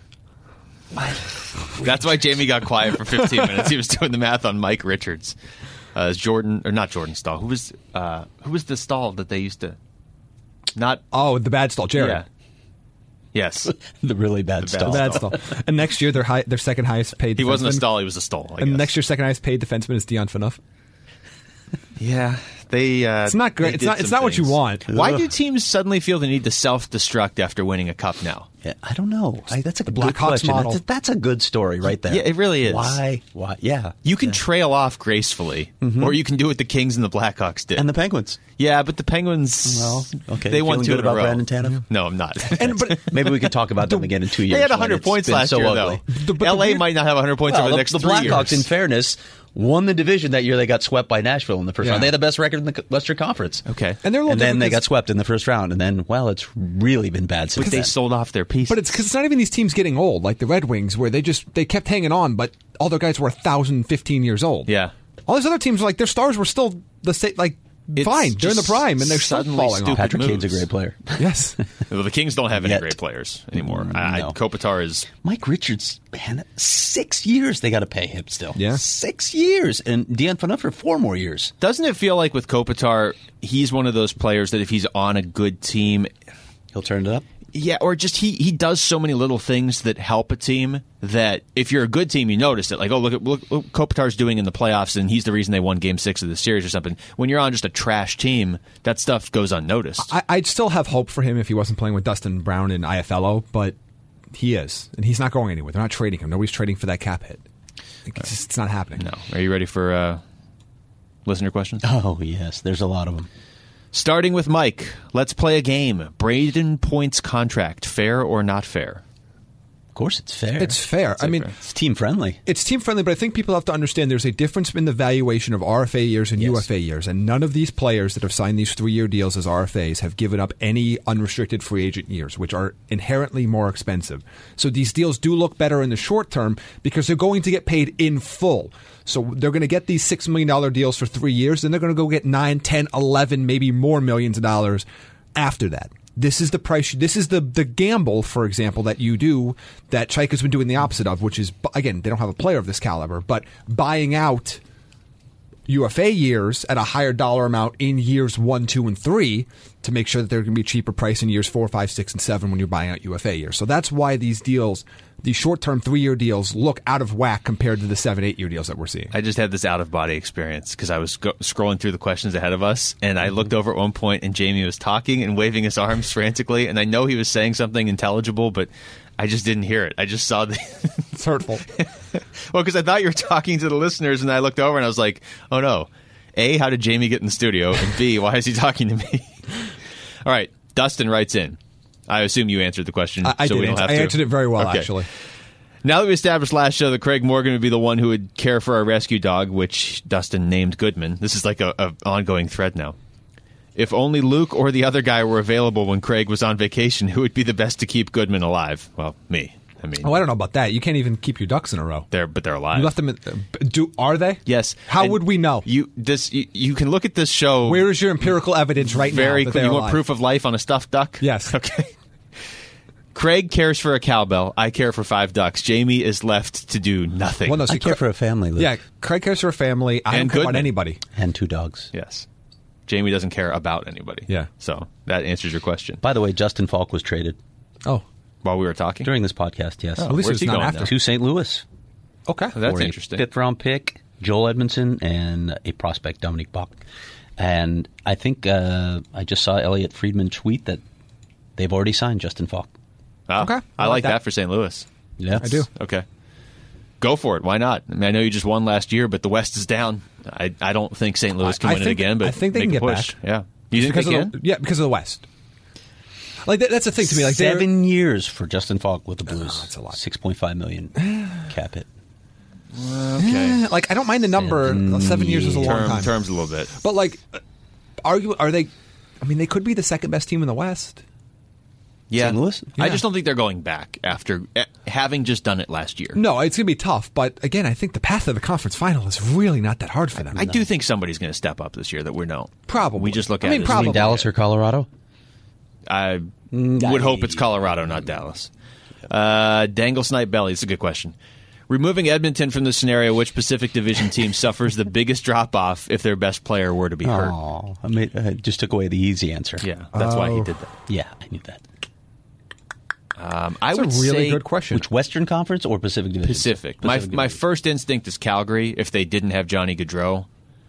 That's why Jamie got quiet for fifteen minutes. He was doing the math on Mike Richards. Uh, Jordan, or not Jordan Stahl. Who was uh, who was the Stahl that they used to? Not Oh, the bad stall, Jared. yeah. Yes, the really bad bad stuff. The bad stall. And next year, their high, their second highest paid. he wasn't a defenseman- Stahl. He was a Stahl. I And guess. next year's second highest paid defenseman is Dion Phaneuf. yeah, they. Uh, It's not great. they It's did not. It's some not what you things. want. Why do teams suddenly feel the need to self-destruct after winning a cup now? Yeah, I don't know. I, that's a good Blackhawks question. model. That's a, that's a good story right there. Yeah, it really is. Why? Why? Yeah. You can trail off gracefully, or you can do what the Kings and the Blackhawks did. And the Penguins. yeah, but the Penguins. Well, okay. they You won feeling two good in a about row. Brandon Tanev? No, I'm not. And but Maybe we could talk about them again in two years. They had when one hundred it's points been last so year, ugly. though. The- but the L A weird- might not have one hundred points Well, over the the, next the three Blackhawks, in years. fairness, won the division that year. They got swept by Nashville in the first Yeah. round. They had the best record in the Western Conference. Okay. and they're a little And then different they 'cause- got swept in the first round. And then, well, it's really been bad since But they then. sold off their pieces. But it's because it's not even these teams getting old, like the Red Wings, where they just they kept hanging on, but all their guys were one thousand, fifteen years old. yeah. All these other teams, like their stars were still the same, like It's fine. They're in the just prime, and they're still suddenly falling stupid. off. Patrick moves. Kane's a great player. Yes, Well, the Kings don't have any Yet. great players anymore. I, No. Kopitar is. Mike Richards, man, six years they got to pay him still. Yeah. Six years. And Dion Phaneuf for four more years. Doesn't it feel like with Kopitar, he's one of those players that if he's on a good team, He'll turn it up. yeah, or just he he does so many little things that help a team that if you're a good team, you notice it. Like, oh, look at look what Kopitar's doing in the playoffs, and he's the reason they won Game Six of the series or something. When you're on just a trash team, that stuff goes unnoticed. I, I'd still have hope for him if he wasn't playing with Dustin Brown and I F L O, but he is, and he's not going anywhere. They're not trading him. Nobody's trading for that cap hit. Like, It's, just, it's not happening. no, are you ready for uh, listener questions? Oh, yes. There's a lot of them. Starting with Mike, let's play a game. Braden Point's contract, fair or not fair? Of course, it's fair. It's fair. I mean, fair. It's team friendly. It's team friendly, but I think people have to understand there's a difference in the valuation of R F A years and Yes. U F A years, and none of these players that have signed these three-year deals as R F As have given up any unrestricted free agent years, which are inherently more expensive. So these deals do look better in the short term because they're going to get paid in full. So they're going to get these six million dollars deals for three years, then they're going to go get nine, ten, eleven, maybe more millions of dollars after that. This is the price. This is the the gamble, for example, that you do that Chaika's been doing the opposite of, which is, again, they don't have a player of this caliber, but buying out U F A years at a higher dollar amount in years one, two, and three to make sure that they're going to be a cheaper price in years four, five, six, and seven when you're buying out U F A years. So that's why these deals, these short-term three-year deals, look out of whack compared to the seven, eight-year deals that we're seeing. I just had this out-of-body experience because I was go- scrolling through the questions ahead of us, and I looked over at one point, and Jamie was talking and waving his arms frantically, and I know he was saying something intelligible, but I just didn't hear it. I just saw the... It's hurtful. Well, because I thought you were talking to the listeners, and I looked over, and I was like, oh, no. A, how did Jamie get in the studio? And B, why is he talking to me? All right. Dustin writes in. I assume you answered the question. I, I so did. we don't have I to. answered it very well, Okay. actually. Now that we established last show that Craig Morgan would be the one who would care for our rescue dog, which Dustin named Goodman, this is like a, a ongoing thread now. If only Luke or the other guy were available when Craig was on vacation, who would be the best to keep Goodman alive? Well, me. I mean, Oh, I don't know about that. You can't even keep your ducks in a row. they're but they're alive. You left them in, do are they? Yes. How And would we know? You this you, you can look at this show. Where is your empirical evidence right very now? that clear. they're You want alive? proof of life on a stuffed duck? Yes. Okay. Craig cares for a cowbell. I care for five ducks. Jamie is left to do nothing. Well, no, see, I care Cra- for a family, Luke. Yeah, Craig cares for a family. I And don't care about Goodman. anybody. And two dogs. Yes. Jamie doesn't care about anybody. Yeah. So that answers your question. By the way, Justin Falk was traded Oh, While we were talking? during this podcast, yes. Oh, at least where's it's he not going after. now? To Saint Louis. okay. Oh, that's for a interesting. fifth round pick, Joel Edmondson, and a prospect, Dominic Bach. And I think uh, I just saw Elliot Friedman tweet that they've already signed Justin Falk. Oh, Okay. I, I like like that. that. for Saint Louis. Yeah, I do. Okay. Go for it. Why not? I mean, I know you just won last year, but the West is down. I, I don't think Saint Louis can I win it think- again, but I think they make can a get push. back. Yeah. You think because they of can? the, yeah, because of the West. Like that, that's the thing to me. Like they're- seven years for Justin Falk with the Blues. Oh, that's a lot. Six point five million cap hit. Okay. like I don't mind the number. Seven Seven years is a long Term, time. terms a little bit. But like, argue are they? I mean, they could be the second best team in the West. Yeah. Saint Louis? I Yeah. just don't think they're going back after eh, having just done it last year. No, it's gonna be tough. But again, I think the path of the conference final is really not that hard for them. I do think somebody's going to step up this year that we know. Probably. We just look I at mean, it. as- probably. Between Dallas or Colorado? I would hope it's Colorado, not Dallas. Uh, Dangle Snipe Belly. It's a good question. Removing Edmonton from the scenario, which Pacific Division team suffers the biggest drop off if their best player were to be hurt? Oh, I, made, I just took away the easy answer. Yeah, that's why he Oh. did that. Yeah, I knew that. Um, I That's would a really say good question. Which Western Conference or Pacific Division? Pacific. Pacific my my Division. first instinct is Calgary if they didn't have Johnny Gaudreau,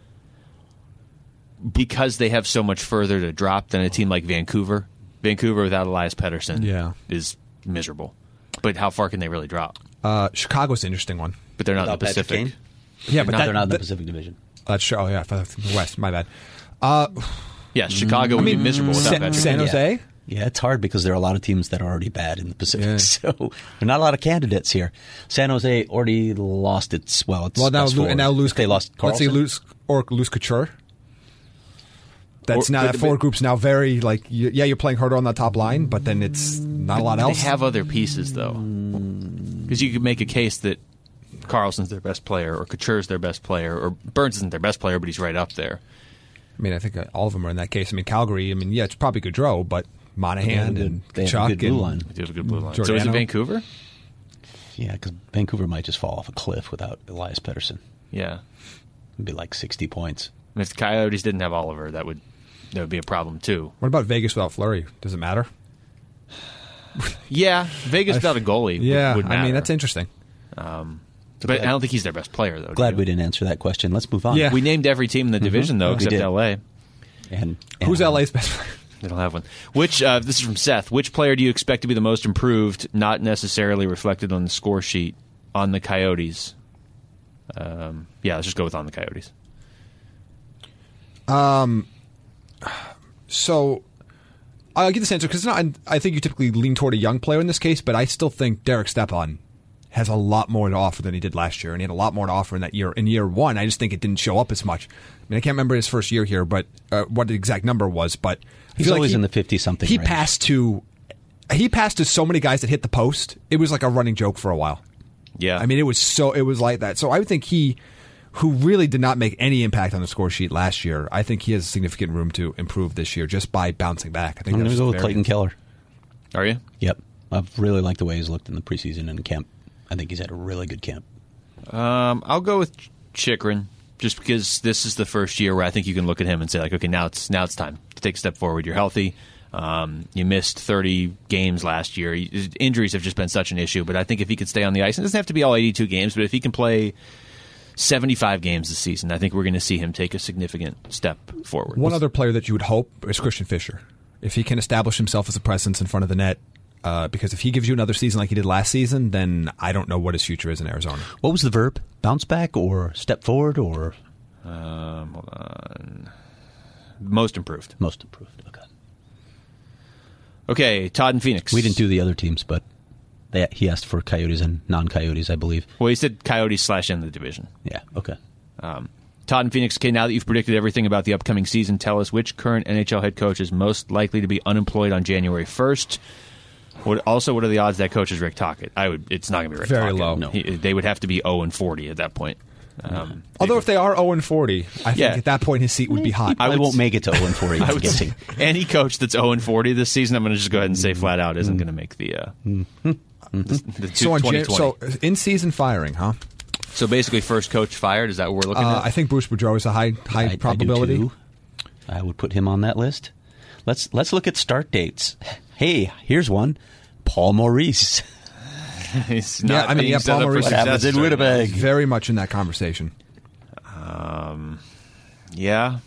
because they have so much further to drop than a team like Vancouver. Vancouver without Elias Pettersson Yeah. is miserable. But how far can they really drop? Uh, Chicago's an interesting one. But they're not in Without the Patrick Pacific. Kane? Yeah, but No, that, they're not in the that- Pacific Division. That's true. Oh yeah, I thought the West. My bad. Uh, Yeah, Chicago would be miserable without San, Patrick San Kane. Jose. Yeah, it's hard because there are a lot of teams that are already bad in the Pacific. Yeah. So there are not a lot of candidates here. San Jose already lost its, well, it's Well, now best lo- forward. and now lose. If they lost Let's say Carlson. lose or lose Couture. That's Or- now but- that forward but- group's now very like you, yeah you're playing harder on that top line, but then it's not a lot They else. have other pieces, though. Because you could make a case that Carlson's their best player, or Couture's their best player, or Burns isn't their best player, but he's right up there. I mean, I think uh, all of them are in that case. I mean, Calgary. I mean, yeah, it's probably Gaudreau, but Monahan They have a good- and they have a Chuck good blue and line. They have a good blue line. So is it Giordano? Vancouver? Yeah, because Vancouver might just fall off a cliff without Elias Pettersson. Yeah. It'd be like sixty points. And if the Coyotes didn't have Oliver, that would that would be a problem too. What about Vegas without Fleury? Does it matter? Yeah, Vegas without a goalie. Yeah, would, would matter. I mean that's interesting. But I don't think he's their best player, though. Glad do we you? didn't answer that question. Let's move on. Yeah. We named every team in the division, though, We except did. L A. And, Who's and, L A's best player? They don't have one. Which uh, this is from Seth. Which player do you expect to be the most improved, not necessarily reflected on the score sheet, on the Coyotes? Um, yeah, let's just go with on the Coyotes. So I'll give this answer because I think you typically lean toward a young player in this case, but I still think Derek Stepan has a lot more to offer than he did last year, and he had a lot more to offer in that year. In year one, I just think it didn't show up as much. I mean, I can't remember his first year here, but uh, what the exact number was. But I he's feel always like he, in the fifty-something He range. passed to he passed to so many guys that hit the post. It was like a running joke for a while. Yeah, I mean, it was so it was like that. So I would think he, who really did not make any impact on the score sheet last year, I think he has significant room to improve this year just by bouncing back. I think I'm going to go with very, Clayton Keller. Are you? Yep. I've really liked the way he's looked in the preseason and camp. I think he's had a really good camp. Um, I'll go with Chychrun, just because this is the first year where I think you can look at him and say, like, okay, now it's now it's time to take a step forward. You're healthy. Um, you missed thirty games last year. Injuries have just been such an issue, but I think if he could stay on the ice, it doesn't have to be all eighty-two games, but if he can play seventy-five games this season, I think we're going to see him take a significant step forward. One other player that you would hope is Christian Fischer. If he can establish himself as a presence in front of the net, uh, because if he gives you another season like he did last season, then I don't know what his future is in Arizona. What was the verb? Bounce back or step forward or? Um, hold on. Most improved. Most improved. Okay. Okay, Todd and Phoenix. We didn't do the other teams, but they, he asked for Coyotes and non-Coyotes, I believe. Well, he said Coyotes slash in the division. Yeah, okay. Um, Todd and Phoenix, okay, now that you've predicted everything about the upcoming season, tell us which current N H L head coach is most likely to be unemployed on January first. What, also, what are the odds that coach is Rick Tocchet? I would. It's not going to be Rick Very Tocchet. low. No. He, they would have to be oh and forty at that point. Um, Although if they are oh and forty, I think Yeah. at that point his seat would be hot. I would won't s- make it to oh and forty, I I'm would guessing. say any coach that's oh and forty this season, I'm going to just go ahead and say flat out, isn't going to make the, uh, the, the two, So, on Jan- twenty twenty. so in season firing, huh? So basically, first coach fired. Is that what we're looking Uh, at? I think Bruce Boudreau is a high high I, probability. I, do too. I would put him on that list. Let's let's look at start dates. Hey, here's one. Paul Maurice. He's Yeah, not I mean, being yeah, set Paul up for Maurice- What success happens in right Winnipeg? Very much in that conversation. now. Yeah.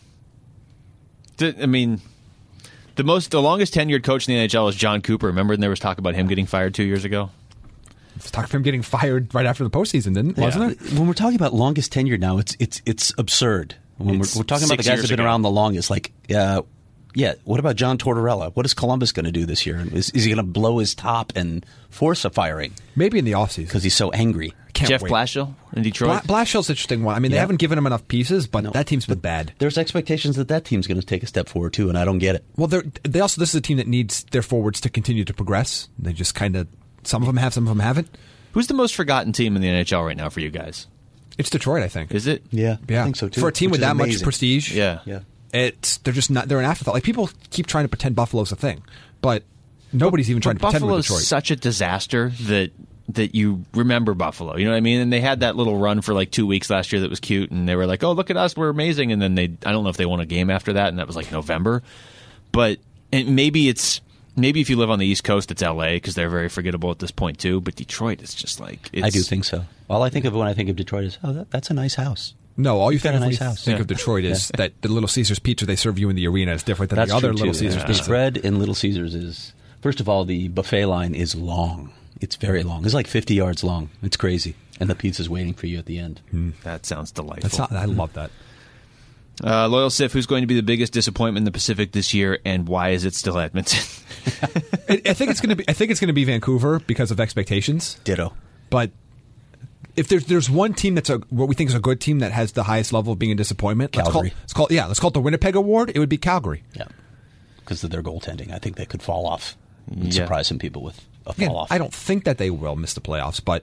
D- I mean, the most, the longest tenured coach in the N H L is John Cooper. Remember, and there was talk about him getting fired two years ago. Let's talk about him getting fired right after the postseason, didn't wasn't it? When we're talking about longest tenure now, it's it's it's absurd. When It's we're, we're talking about the six guys years that have been ago. around the longest, like, uh, yeah, what about John Tortorella? What is Columbus going to do this year? Is, is he going to blow his top and force a firing Maybe in the offseason. because he's so angry? Can't Jeff wait. Blashill in Detroit. Bla- Blashill's an interesting one. I mean, they Yeah. haven't given him enough pieces, but No. that team's been bad. There's expectations that that team's going to take a step forward too, and I don't get it. Well, they're, they also this is a team that needs their forwards to continue to progress. They just kind of some of them have, some of them haven't. Who's the most forgotten team in the N H L right now for you guys? It's Detroit, I think. Is it? Yeah, yeah, I think so too. For a team which with is that much amazing. prestige, Yeah. Yeah. it's they're just not. They're an afterthought. Like people keep trying to pretend Buffalo's a thing, but nobody's even trying to But pretend with Buffalo's Detroit. such a disaster that that you remember Buffalo. You know what I mean? And they had that little run for like two weeks last year that was cute, and they were like, "Oh, look at us, we're amazing." And then they, I don't know if they won a game after that, and that was like November. But and maybe it's maybe if you live on the East Coast, it's L A because they're very forgettable at this point too. But Detroit is just like it's, I do think so. All I think of when I think of Detroit is, oh, that, that's a nice house. No, all you think, got a of when nice you house. think Yeah. of Detroit is that the Little Caesars pizza they serve you in the arena is different than That's the other true Little too. Caesars The pizza. spread in Little Caesars is, first of all, the buffet line is long. It's very long. It's like fifty yards long. It's crazy, and the pizza's waiting for you at the end. That sounds delightful. That's not, I love that. Uh, Loyal Sif, who's going to be the biggest disappointment in the Pacific this year, and why is it still Edmonton? I, I think it's going to be. I think it's going to be Vancouver because of expectations. Ditto. But if there's there's one team that's a what we think is a good team that has the highest level of being a disappointment, let's call, Calgary. let's call yeah, let's call it the Winnipeg Award. It would be Calgary. Yeah, because of their goaltending, I think they could fall off and Yeah. surprise some people with a Again, fall off. I don't think that they will miss the playoffs, but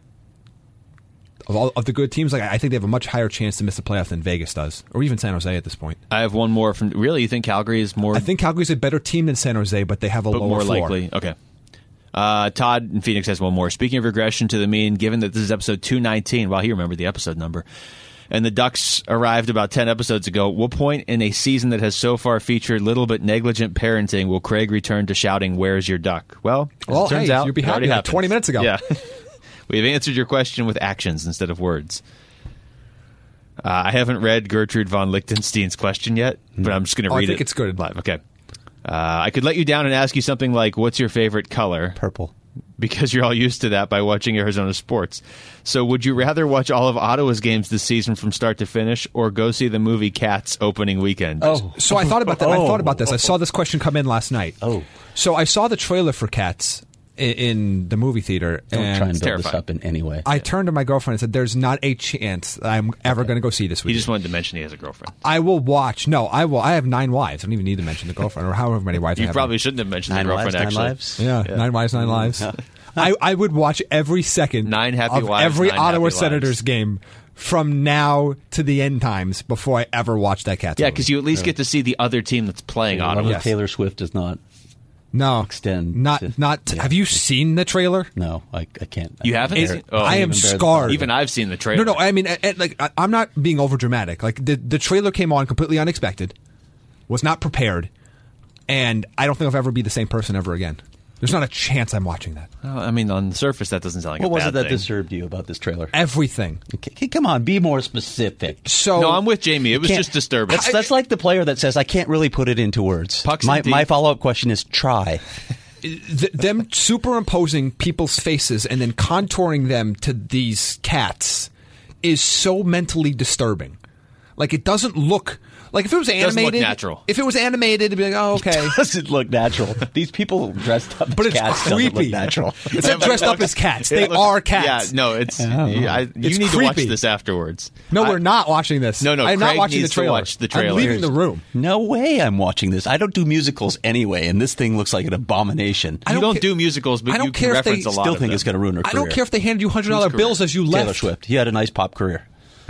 of all of the good teams, like I think they have a much higher chance to miss the playoffs than Vegas does, or even San Jose at this point. I have one more from. Really, you think Calgary is more? I think Calgary's a better team than San Jose, but they have a but lower more floor. likely. Okay. Uh, Todd in Phoenix has one more. Speaking of regression to the mean, given that this is episode two nineteen, well, he remembered the episode number, and the Ducks arrived about ten episodes ago, what point in a season that has so far featured little but negligent parenting will Craig return to shouting, "Where's your duck?" Well, as Well, it turns hey, out, you'd be it happy already like happened. twenty minutes ago. Yeah. We've answered your question with actions instead of words. Uh, I haven't read Gertrude von Lichtenstein's question yet, but I'm just going to Oh, I read think it it's good. live. Okay. Uh, I could let you down and ask you something like, what's your favorite color? Purple. because you're all used to that by watching Arizona sports. So would you rather watch all of Ottawa's games this season from start to finish or go see the movie Cats opening weekend? Oh. So I thought about that. Oh. I thought about this. I saw this question come in last night. Oh. So I saw the trailer for Cats in, in the movie theater. Don't and try and build terrifying. this up in any way. I turned to my girlfriend and said, there's not a chance that I'm ever going to go see this He weekend. just wanted to mention he has a girlfriend. I will watch. No, I will. I have nine wives. I don't even need to mention the girlfriend or however many wives I You have. probably shouldn't have mentioned Nine the lives, girlfriend, nine actually. lives. Yeah, nine wives, nine lives. I, I would watch every second Nine happy of wives, every nine Ottawa happy Senators lives. game from now to the end times before I ever watch that Cats Yeah, movie. because you at least get to see the other team that's playing Love Ottawa. of Yes. Taylor Swift does not. no extend Not to- not. yeah. Have you seen the trailer? No, I, I can't. You I haven't can't seen- bear- oh. I am can't even bear the scarred. Even I've seen the trailer. No, no. I mean, I, I- like I, I'm not being over dramatic. Like the the trailer came on completely unexpected, was not prepared, and I don't think I'll ever be the same person ever again. There's not a chance I'm watching that. Well, I mean, on the surface, that doesn't sound like What a was bad it that thing. disturbed you about this trailer? Everything. Okay, come on, be more specific. So No, I'm with Jamie. It was Can't- just disturbing. That's, that's like the player that says, I can't really put it into words. Pucks my and deep. my follow up question is try. th- them superimposing people's faces and then contouring them to these cats is so mentally disturbing. Like it doesn't look like if it was doesn't look animated. natural. If it was animated, it'd be like, oh, okay. Doesn't look natural. These people dressed up But as it's cats doesn't creepy. look natural. It's not dressed up as cats. They It looks- are cats. Yeah, no, it's. I, you It's need to watch creepy. this afterwards. No, I- we're not watching this. No, no, I'm not Craig watching the needs to trailer. watch the trailer. I'm leaving the room. No way I'm watching this. I don't do musicals anyway, and this thing looks like an abomination. I You don't don't ca- do musicals, but I don't you care can if they reference a lot Still of think them. it's going to ruin her I career. don't care if they handed you hundred dollar Whose bills career? as you left. Taylor Swift. He had a nice pop career.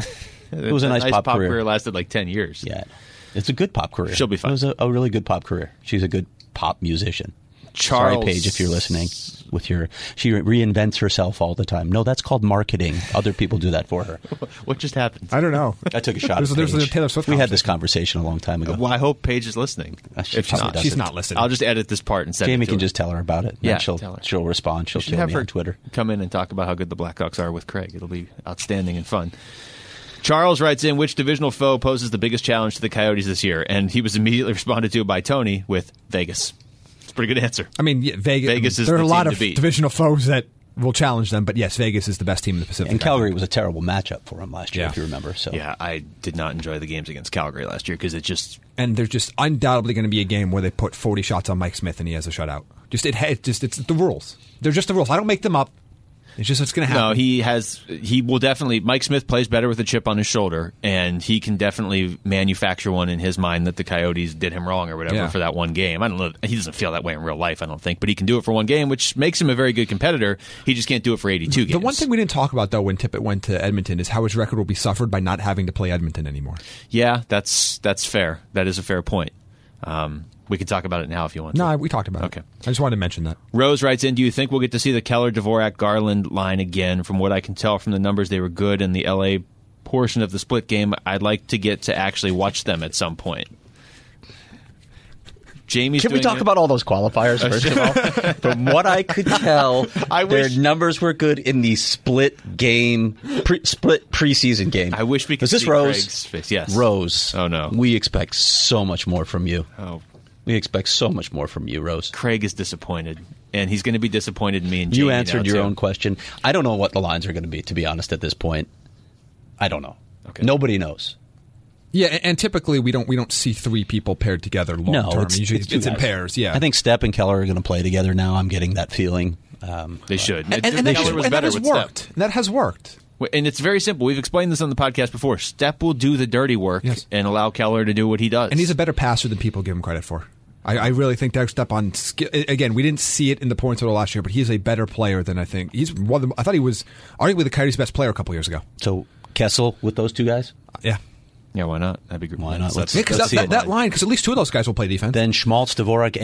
It was a That nice, pop, career. career lasted like ten years. Yeah, it's a good pop career. She'll be fine. It was a, a really good pop career. She's a good pop musician. Charles- Sorry, Paige, if you're listening. With your, she reinvents herself all the time. No, that's called marketing. Other people do that for her. What just happened? I don't know. I took a shot. There's- at there's Paige. a Taylor Swift We had this conversation. conversation a long time ago. Well, I hope Paige is listening. Uh, she if probably not, doesn't. She's not listening. I'll just edit this part and send Jamie it to can her. just tell her about it. Yeah, and she'll tell her. she'll respond. She'll You should kill have me her on Twitter. come in and talk about how good the Blackhawks are with Craig. It'll be outstanding and fun. Charles writes in, which divisional foe poses the biggest challenge to the Coyotes this year? And he was immediately responded to by Tony with Vegas. It's a pretty good answer. I mean, yeah, Vegas. Vegas is there are the a lot team of to beat. divisional foes that will challenge them, but yes, Vegas is the best team in the Pacific. And Calgary was a terrible matchup for him last year, Yeah. if you remember. So Yeah, I did not enjoy the games against Calgary last year because it just and there's just undoubtedly going to be a game where they put forty shots on Mike Smith and he has a shutout. Just it, it just it's the rules. They're just the rules. I don't make them up. It's just what's going to happen. no. He has. He will definitely. Mike Smith plays better with a chip on his shoulder, and he can definitely manufacture one in his mind that the Coyotes did him wrong or whatever Yeah. for that one game. I don't know. He doesn't feel that way in real life, I don't think, but he can do it for one game, which makes him a very good competitor. He just can't do it for eighty-two games. The one thing we didn't talk about though when Tippett went to Edmonton is how his record will be suffered by not having to play Edmonton anymore. Yeah, that's that's fair. That is a fair point. Um, we can talk about it now if you want. No, to. we talked about Okay. it. I just wanted to mention that. Rose writes in, do you think we'll get to see the Keller, Dvorak, Garland line again? From what I can tell from the numbers, they were good in the L A portion of the split game. I'd like to get to actually watch them at some point. Jamie's Can we doing talk it. about all those qualifiers first of all? From what I could tell, I their wish- numbers were good in the split game, pre, split preseason game. I wish we could Was this see Rose? Craig's face. Yes. Rose. Oh, no. We expect so much more from you. Oh, We expect so much more from you, Rose. Craig is disappointed, and he's going to be disappointed in me and Jamie You answered now, your too. own question. I don't know what the lines are going to be, to be honest, at this point. I don't know. Okay. Nobody knows. Yeah, and, and typically we don't we don't see three people paired together long No, term. it's, Usually it's, it's, two in guys. pairs. Yeah, I think Stepp and Keller are going to play together now. I'm getting that feeling. Um, They should. and, and, Keller and, that, was and that better has with Step. worked. That has worked. And it's very simple. We've explained this on the podcast before. Step will do the dirty work Yes. and allow Keller to do what he does. And he's a better passer than people give him credit for. I, I really think Derek Stepp on skill. Again, we didn't see it in the points total last year, but he's a better player than I think. He's one of the, I thought he was arguably the Coyotes' best player a couple years ago. so Kessel with those two guys? Yeah, Yeah, why not? That'd be great. Why not? Let's- yeah, because Let's that, see that, it. that line, because at least two of those guys will play defense. Then Schmaltz, Dvorak,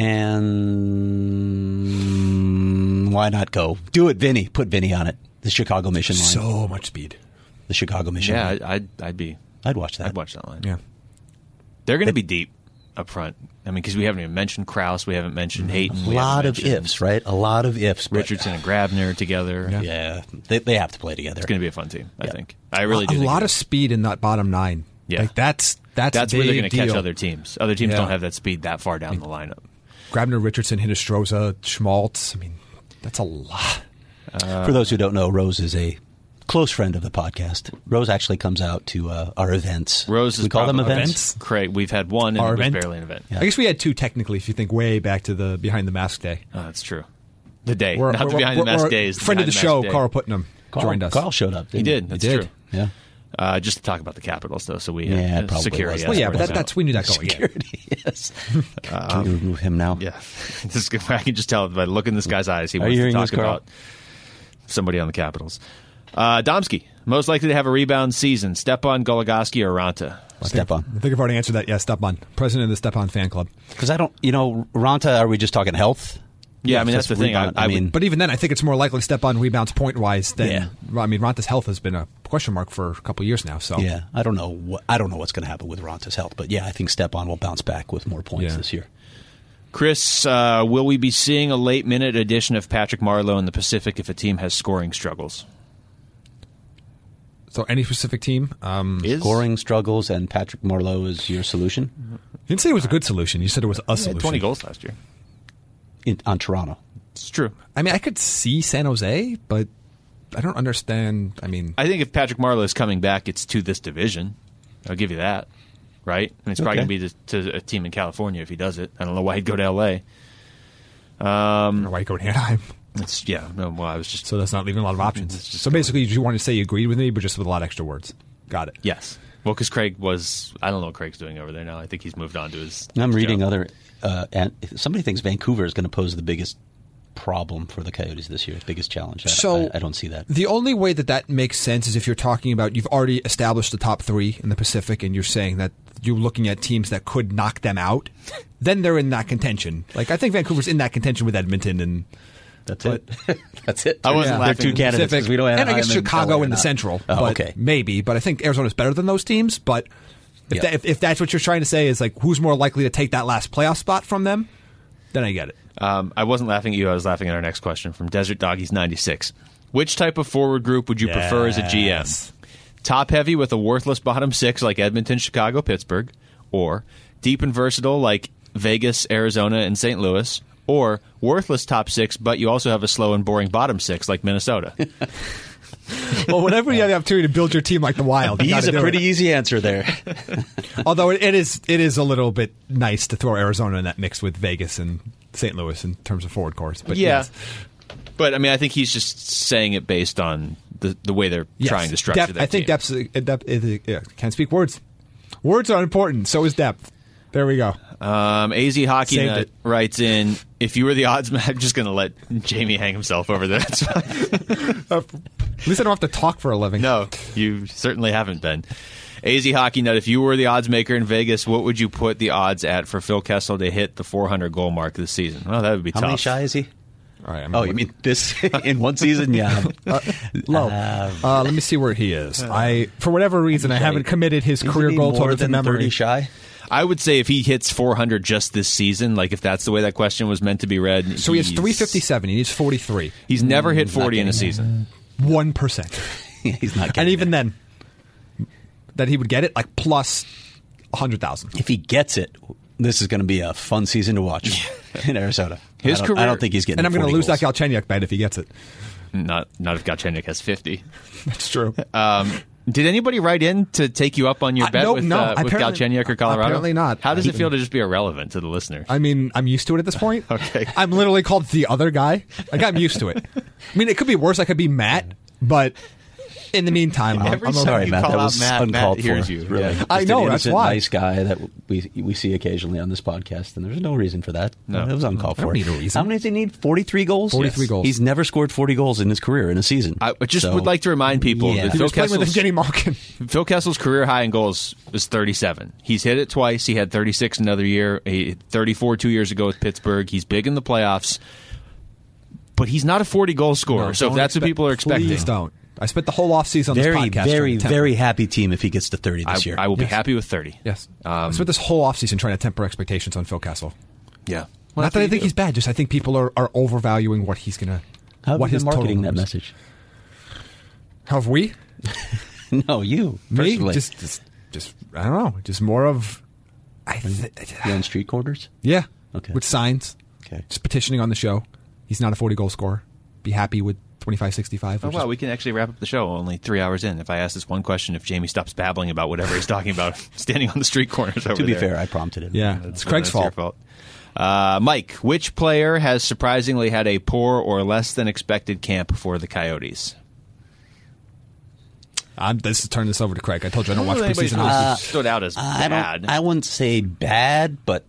and why not go? Do it, Vinny. Put Vinny on it. The Chicago Mission line. so much speed. the Chicago Mission Yeah, line. I- I'd, I'd be. I'd watch that. I'd watch that line. Yeah. They're going to be deep up front. I mean, because we haven't even mentioned Krause, we haven't mentioned Hayton. A we lot haven't of mentioned ifs, right? A lot of ifs. but- Richardson and Grabner together. Yeah. Yeah, they, they have to play together. It's going to be a fun team. I Yeah. think. I really a do. think lot it of is. speed in that bottom nine. Yeah. Like that's that's That's a where they're big going to catch deal. other teams. Other teams Yeah. don't have that speed that far down the lineup. Grabner, Richardson, Hinostroza, Schmaltz. I mean, That's a lot. Uh, For those who don't know, Rose is a close friend of the podcast. Rose actually comes out to uh, our events. Rose is we call them probably- events. Craig, we've had one, and Our it was event? barely an event. Yeah. I guess we had two technically, if you think way back to the Behind the Mask day. Oh, that's true. The day, We're- not the we're- behind the we're- mask we're- days. Friend of the behind show, mask day. Carl Putnam, Carl, joined us. Carl showed up. He didn't did. That's he true. Yeah. Uh, just to talk about the Capitals, though, so we Yeah, had it probably security. was. Well, yeah, but escorts that, out. that's we knew that going in. Security, yes. Can we remove him now? Yeah, this, I can just tell by looking in this guy's eyes, he Are wants you to hearing talk this, Carl? about somebody on the Capitals. Uh, Domsky, most likely to have a rebound season: Stepan, Goligoski, or Ranta? Stepan. I think I've already answered that. Yeah, Stepan, president of the Stepan fan club. Because I don't, you know, Ranta, are we just talking health? Yeah, I mean that's the thing. I, Rebound, I, I mean, would, But even then, I think it's more likely Stepan rebounds point wise than. Yeah. I mean, Ranta's health has been a question mark for a couple of years now. So yeah, I don't know what I don't know what's going to happen with Ranta's health, but yeah, I think Stepan will bounce back with more points Yeah. this year. Chris, uh, will we be seeing a late minute addition of Patrick Marleau in the Pacific if a team has scoring struggles? So any specific team? Um, Is Scoring struggles and Patrick Marleau is your solution you didn't say it was a good solution. You said it was a He had solution. twenty goals last year. in, on Toronto. It's true. I mean, I could see San Jose, but I don't understand. I mean, I think if Patrick Marleau is coming back, it's to this division. I'll give you that. Right? I mean, it's probably Okay. going to be to, to a team in California if he does it. I don't know why he'd go to L A. I don't know why you go to Anaheim. It's, yeah, no, well, I was just. So that's not leaving a lot of options. It's just So basically, you wanted to say you agreed with me, but just with a lot of extra words. Got it. Yes. Well, because Craig was. I don't know what Craig's doing over there now. I think he's moved on to his. I'm his reading job. other. Uh, and somebody thinks Vancouver is going to pose the biggest problem for the Coyotes this year, biggest challenge. I, So I, I don't see that. The only way that that makes sense is if you're talking about you've already established the top three in the Pacific, and you're saying that you're looking at teams that could knock them out. Then they're in that contention. Like I think Vancouver's in that contention with Edmonton and. That's it. That's it. I wasn't They're laughing. two candidates. 'cause Pacific, We don't have and I guess Anaheim and Chicago L A in the not. Central. Oh, but okay. maybe. But I think Arizona's better than those teams. But if, Yeah. that, if, if that's what you're trying to say is like who's more likely to take that last playoff spot from them, then I get it. Um, I wasn't laughing at you. I was laughing at our next question from Desert Doggies ninety-six. Which type of forward group would you prefer as a G M? Yes. Top heavy with a worthless bottom six like Edmonton, Chicago, Pittsburgh, or deep and versatile like Vegas, Arizona, and Saint Louis, or worthless top six, but you also have a slow and boring bottom six like Minnesota. Well, whenever you have the opportunity to build your team like the Wild, you He's gotta a do pretty it. easy answer there. Although it, it is it is a little bit nice to throw Arizona in that mix with Vegas and Saint Louis in terms of forward course. But yeah. yes. But, I mean, I think he's just saying it based on the, the way they're Yes. trying to structure Depth- their I think team. depth, is- depth is, yeah, can't speak words. Words are important. So is depth. There we go. Um, A Z Hockey Saved Nut it. writes in, if you were the odds man, I'm just going to let Jamie hang himself over there. That's fine. At least I don't have to talk for a living. No, you certainly haven't been. A Z Hockey Nut, if you were the odds maker in Vegas, what would you put the odds at for Phil Kessel to hit the four hundred goal mark this season? Well, that would be How tough. many shy is he? All right. I'm Oh, you mean this in one season? Yeah. low? Uh, let me see where he is. I, for whatever reason, I haven't committed his Isn't career he goal more total to than memory. thirty shy? I would say if he hits four hundred just this season, like if that's the way that question was meant to be read. So he has he's- three fifty-seven. He needs forty-three. He's never hit forty in a getting season. One percent. He's not getting And even there. then, that he would get it like plus a hundred thousand. If he gets it, this is going to be a fun season to watch in Arizona. His I don't, career- I don't think he's getting And I'm going to forty lose goals. that Galchenyuk bet if he gets it. Not not if Galchenyuk has fifty. That's true. Um, did anybody write in to take you up on your Uh, bet no, with, no, uh, with apparently- Galchenyuk or Colorado? apparently not. How does it Even- feel to just be irrelevant to the listener? I mean, I'm used to it at this point. Okay. I'm literally called the other guy. Like, I'm used to it. I mean, it could be worse. I could be Matt, but in the meantime, I'm, Every I'm time Sorry, you Matt. call That out was Matt, uncalled Matt hears for. you. Really. Yeah. Just I an know, that's innocent, why. nice guy that we we see occasionally on this podcast, and there's no reason for that. No. It was uncalled I don't for. need a reason. How many does he need? Forty-three goals. forty-three goals. He's never scored forty goals in his career in a season. I just So- would like to remind people Yeah. that He Phil was playing with Kessel's, Jenny Malkin. Phil Kessel's career high in goals is thirty-seven. He's hit it twice. He had thirty-six another year. He hit thirty-four two years ago with Pittsburgh. He's big in the playoffs. But he's not a forty-goal scorer. No, so if don't that's what expect- people are expecting, Please don't. I spent the whole offseason on very, this podcast. very, trying to temper- very happy team if he gets to thirty I, this year. I will be Yes. happy with thirty. Yes. I Um, spent this whole offseason trying to temper expectations on Phil Kessel. Yeah. Not that I think he's bad, just I think people are, are overvaluing what he's going to. How have what you his been total marketing that numbers- message? Have we? No, you Me? personally. Just, just, just, I don't know. Just more of. I th- You on street corners? yeah. Okay. With signs. Okay. Just petitioning on the show. He's not a forty goal scorer. be happy with twenty-five sixty-five. Oh, wow, we can actually wrap up the show only three hours in. If I ask this one question, if Jamie stops babbling about whatever he's talking about, standing on the street corners over To be there. fair, I prompted him. Yeah, That's, it's Craig's that's your fault. fault. Uh, Mike, which player has surprisingly had a poor or less than expected camp for the Coyotes? I'm, this is turn this over to Craig. I told you I don't watch Anybody's preseason. really hockey. stood out as I bad. don't. I wouldn't say bad, but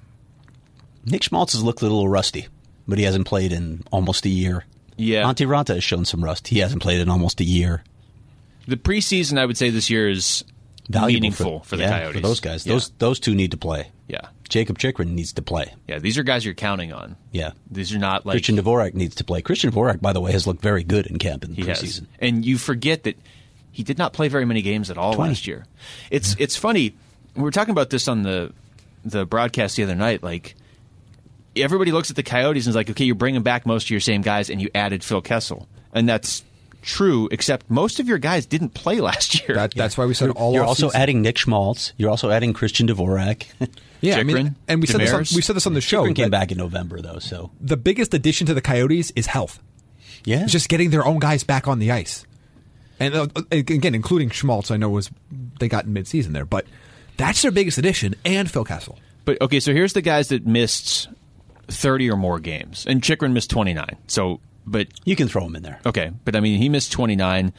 Nick Schmaltz has looked a little rusty, but he hasn't played in almost a year. Yeah. Antti Ranta has shown some rust. He hasn't played in almost a year. The preseason, I would say, this year is Valuable meaningful for, the yeah, Coyotes. for those guys. Yeah. Those those two need to play. yeah, Jacob Chikrin needs to play. yeah. These are guys you're counting on. Yeah. These are not like Christian Dvorak needs to play. Christian Dvorak, by the way, has looked very good in camp in the he has. preseason. And you forget that he did not play very many games at all twenty. last year. It's it's funny. We were talking about this on the the broadcast the other night. Like everybody looks at the Coyotes and is like, okay, you're bringing back most of your same guys, and you added Phil Kessel, and that's true. Except most of your guys didn't play last year. That, that's why we said all. You're off also season. adding Nick Schmaltz. You're also adding Christian Dvorak. Yeah, I mean, Chikrin, and we said this on, Demers. we said this on the show. Chikrin came that back in November, though, so The biggest addition to the Coyotes is health. yeah. It's just getting their own guys back on the ice, and uh, again, including Schmaltz. I know was they got in midseason there, but that's their biggest addition, and Phil Kessel. But okay, so here's the guys that missed thirty or more games, and Chikrin missed twenty-nine. So, but You can throw him in there. okay, but I mean, he missed twenty-nine.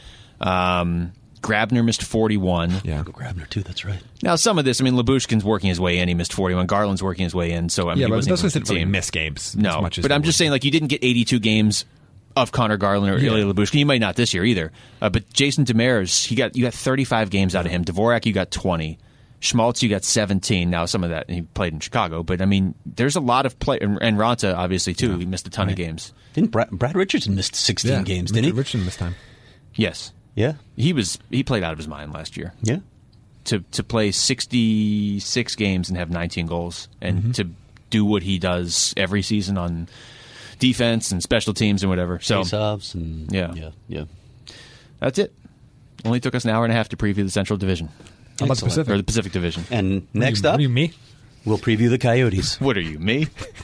Um, Grabner missed forty-one. Yeah, Go Grabner, too. That's right. Now, some of this, I mean, Labushkin's working his way in. He missed forty-one. Garland's working his way in. So, I mean, yeah, he but wasn't those even guys with didn't the really team. miss games. No, as much as but they I'm were. just saying, like, you didn't get eighty-two games of Connor Garland or Yeah. Ilya Labushkin. You might not this year either. Uh, but Jason Demers, he got you got thirty-five games out of him. Dvorak, you got twenty. Schmaltz, you got seventeen. Now, some of that he played in Chicago, but I mean, there's a lot of play, and, and Ranta obviously too. He missed a ton of games. Didn't Brad, Brad Richardson missed sixteen yeah, games, didn't he? Richardson this time. Yes, Yeah. he was. He played out of his mind last year. Yeah. To to play sixty-six games and have nineteen goals, and Mm-hmm. to do what he does every season on defense and special teams and whatever. So Face-offs and Yeah. yeah, yeah. that's it. Only took us an hour and a half to preview the Central Division How about the Excellent. Pacific? or the Pacific Division. And next What up, do you me? we'll preview the Coyotes. What are you, me?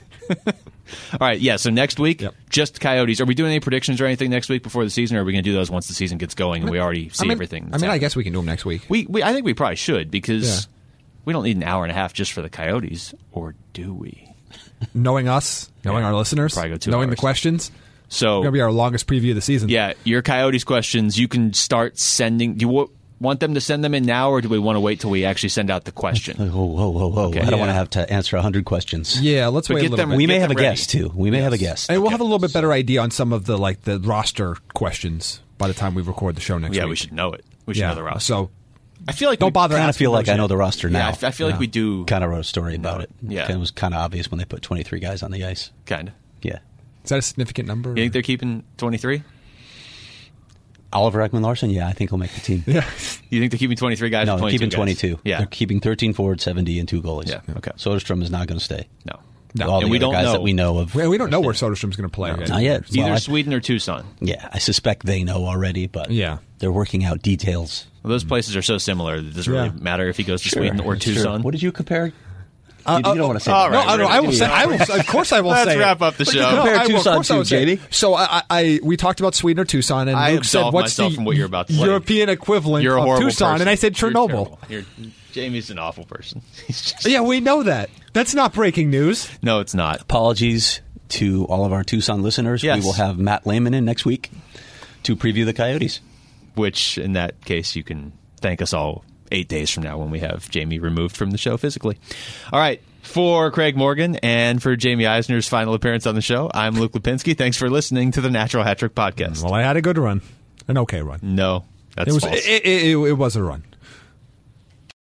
All right, yeah. So next week, Yep. just Coyotes. Are we doing any predictions or anything next week before the season, or are we going to do those once the season gets going and we already see I mean, everything? I that's mean, I happening? guess we can do them next week. we, we. I think we probably should because Yeah. we don't need an hour and a half just for the Coyotes, or do we? Knowing us, knowing Yeah. our listeners, Probably go two knowing the hours. questions, So it's going to be our longest preview of the season. yeah, your Coyotes questions, you can start sending. Do you wa- want them to send them in now, or do we want to wait till we actually send out the question? Whoa, whoa, whoa, whoa. Okay. I don't Yeah. want to have to answer one hundred questions. Yeah, let's But wait get a little them- bit. We may Get have a them ready. guest, too. We may have a guest. And we'll Okay. have a little bit better idea on some of the like the roster questions by the time we record the show next Yeah, week. we should know it. We should Yeah, know the roster. so I feel like don't we bother. I kind of asking feel like those I know yet. the roster Yeah, now. I, f- I feel like Yeah. we do. Kind of wrote a story about it. Yeah. It was kind of obvious when they put twenty-three guys on the ice. Kind of. Yeah. Is that a significant number? You think they're keeping twenty-three? Oliver Ekman Larson, yeah, I think he'll make the team. Yeah. You think they're keeping twenty-three guys? No, or they're twenty-two keeping guys? twenty-two. Yeah. They're keeping thirteen forward, seventy, and two goalies. Yeah, okay. Soderstrom is not going to stay. No. No. All And the we other don't guys know. that we know of. We, we don't know where Soderstrom's going to play. yet. Not yet. It's either Well, I- Sweden or Tucson. Yeah, I suspect they know already, but Yeah. they're working out details. Well, those places are so similar that it doesn't Yeah. really matter if he goes to Sweden or Sure. Tucson. What did you compare? Uh, you, you don't want to say all that. right. No, I, don't, I will say. I will. Of course, I will Let's say. wrap it. up the show. No, Compare I will, of Tucson course I to, will say it. Jamie. So I, I, I, we talked about Sweden or Tucson, and I Luke said, absolve "What's myself the from what you're about to say. European equivalent You're a of horrible Tucson?" person. And I said You're Chernobyl. terrible. You're, Jamie's an awful person. He's just, Yeah, we know that. That's not breaking news. No, it's not. Apologies to all of our Tucson listeners. Yes. We will have Matt Lehman in next week to preview the Coyotes. Which, in that case, you can thank us all eight days from now when we have Jamie removed from the show physically. All right. For Craig Morgan and for Jamie Eisner's final appearance on the show, I'm Luke Lipinski. Thanks for listening to the Natural Hat Trick Podcast. Well, I had a good run, an okay run. No, that's It was. false. It, it, it, it was a run.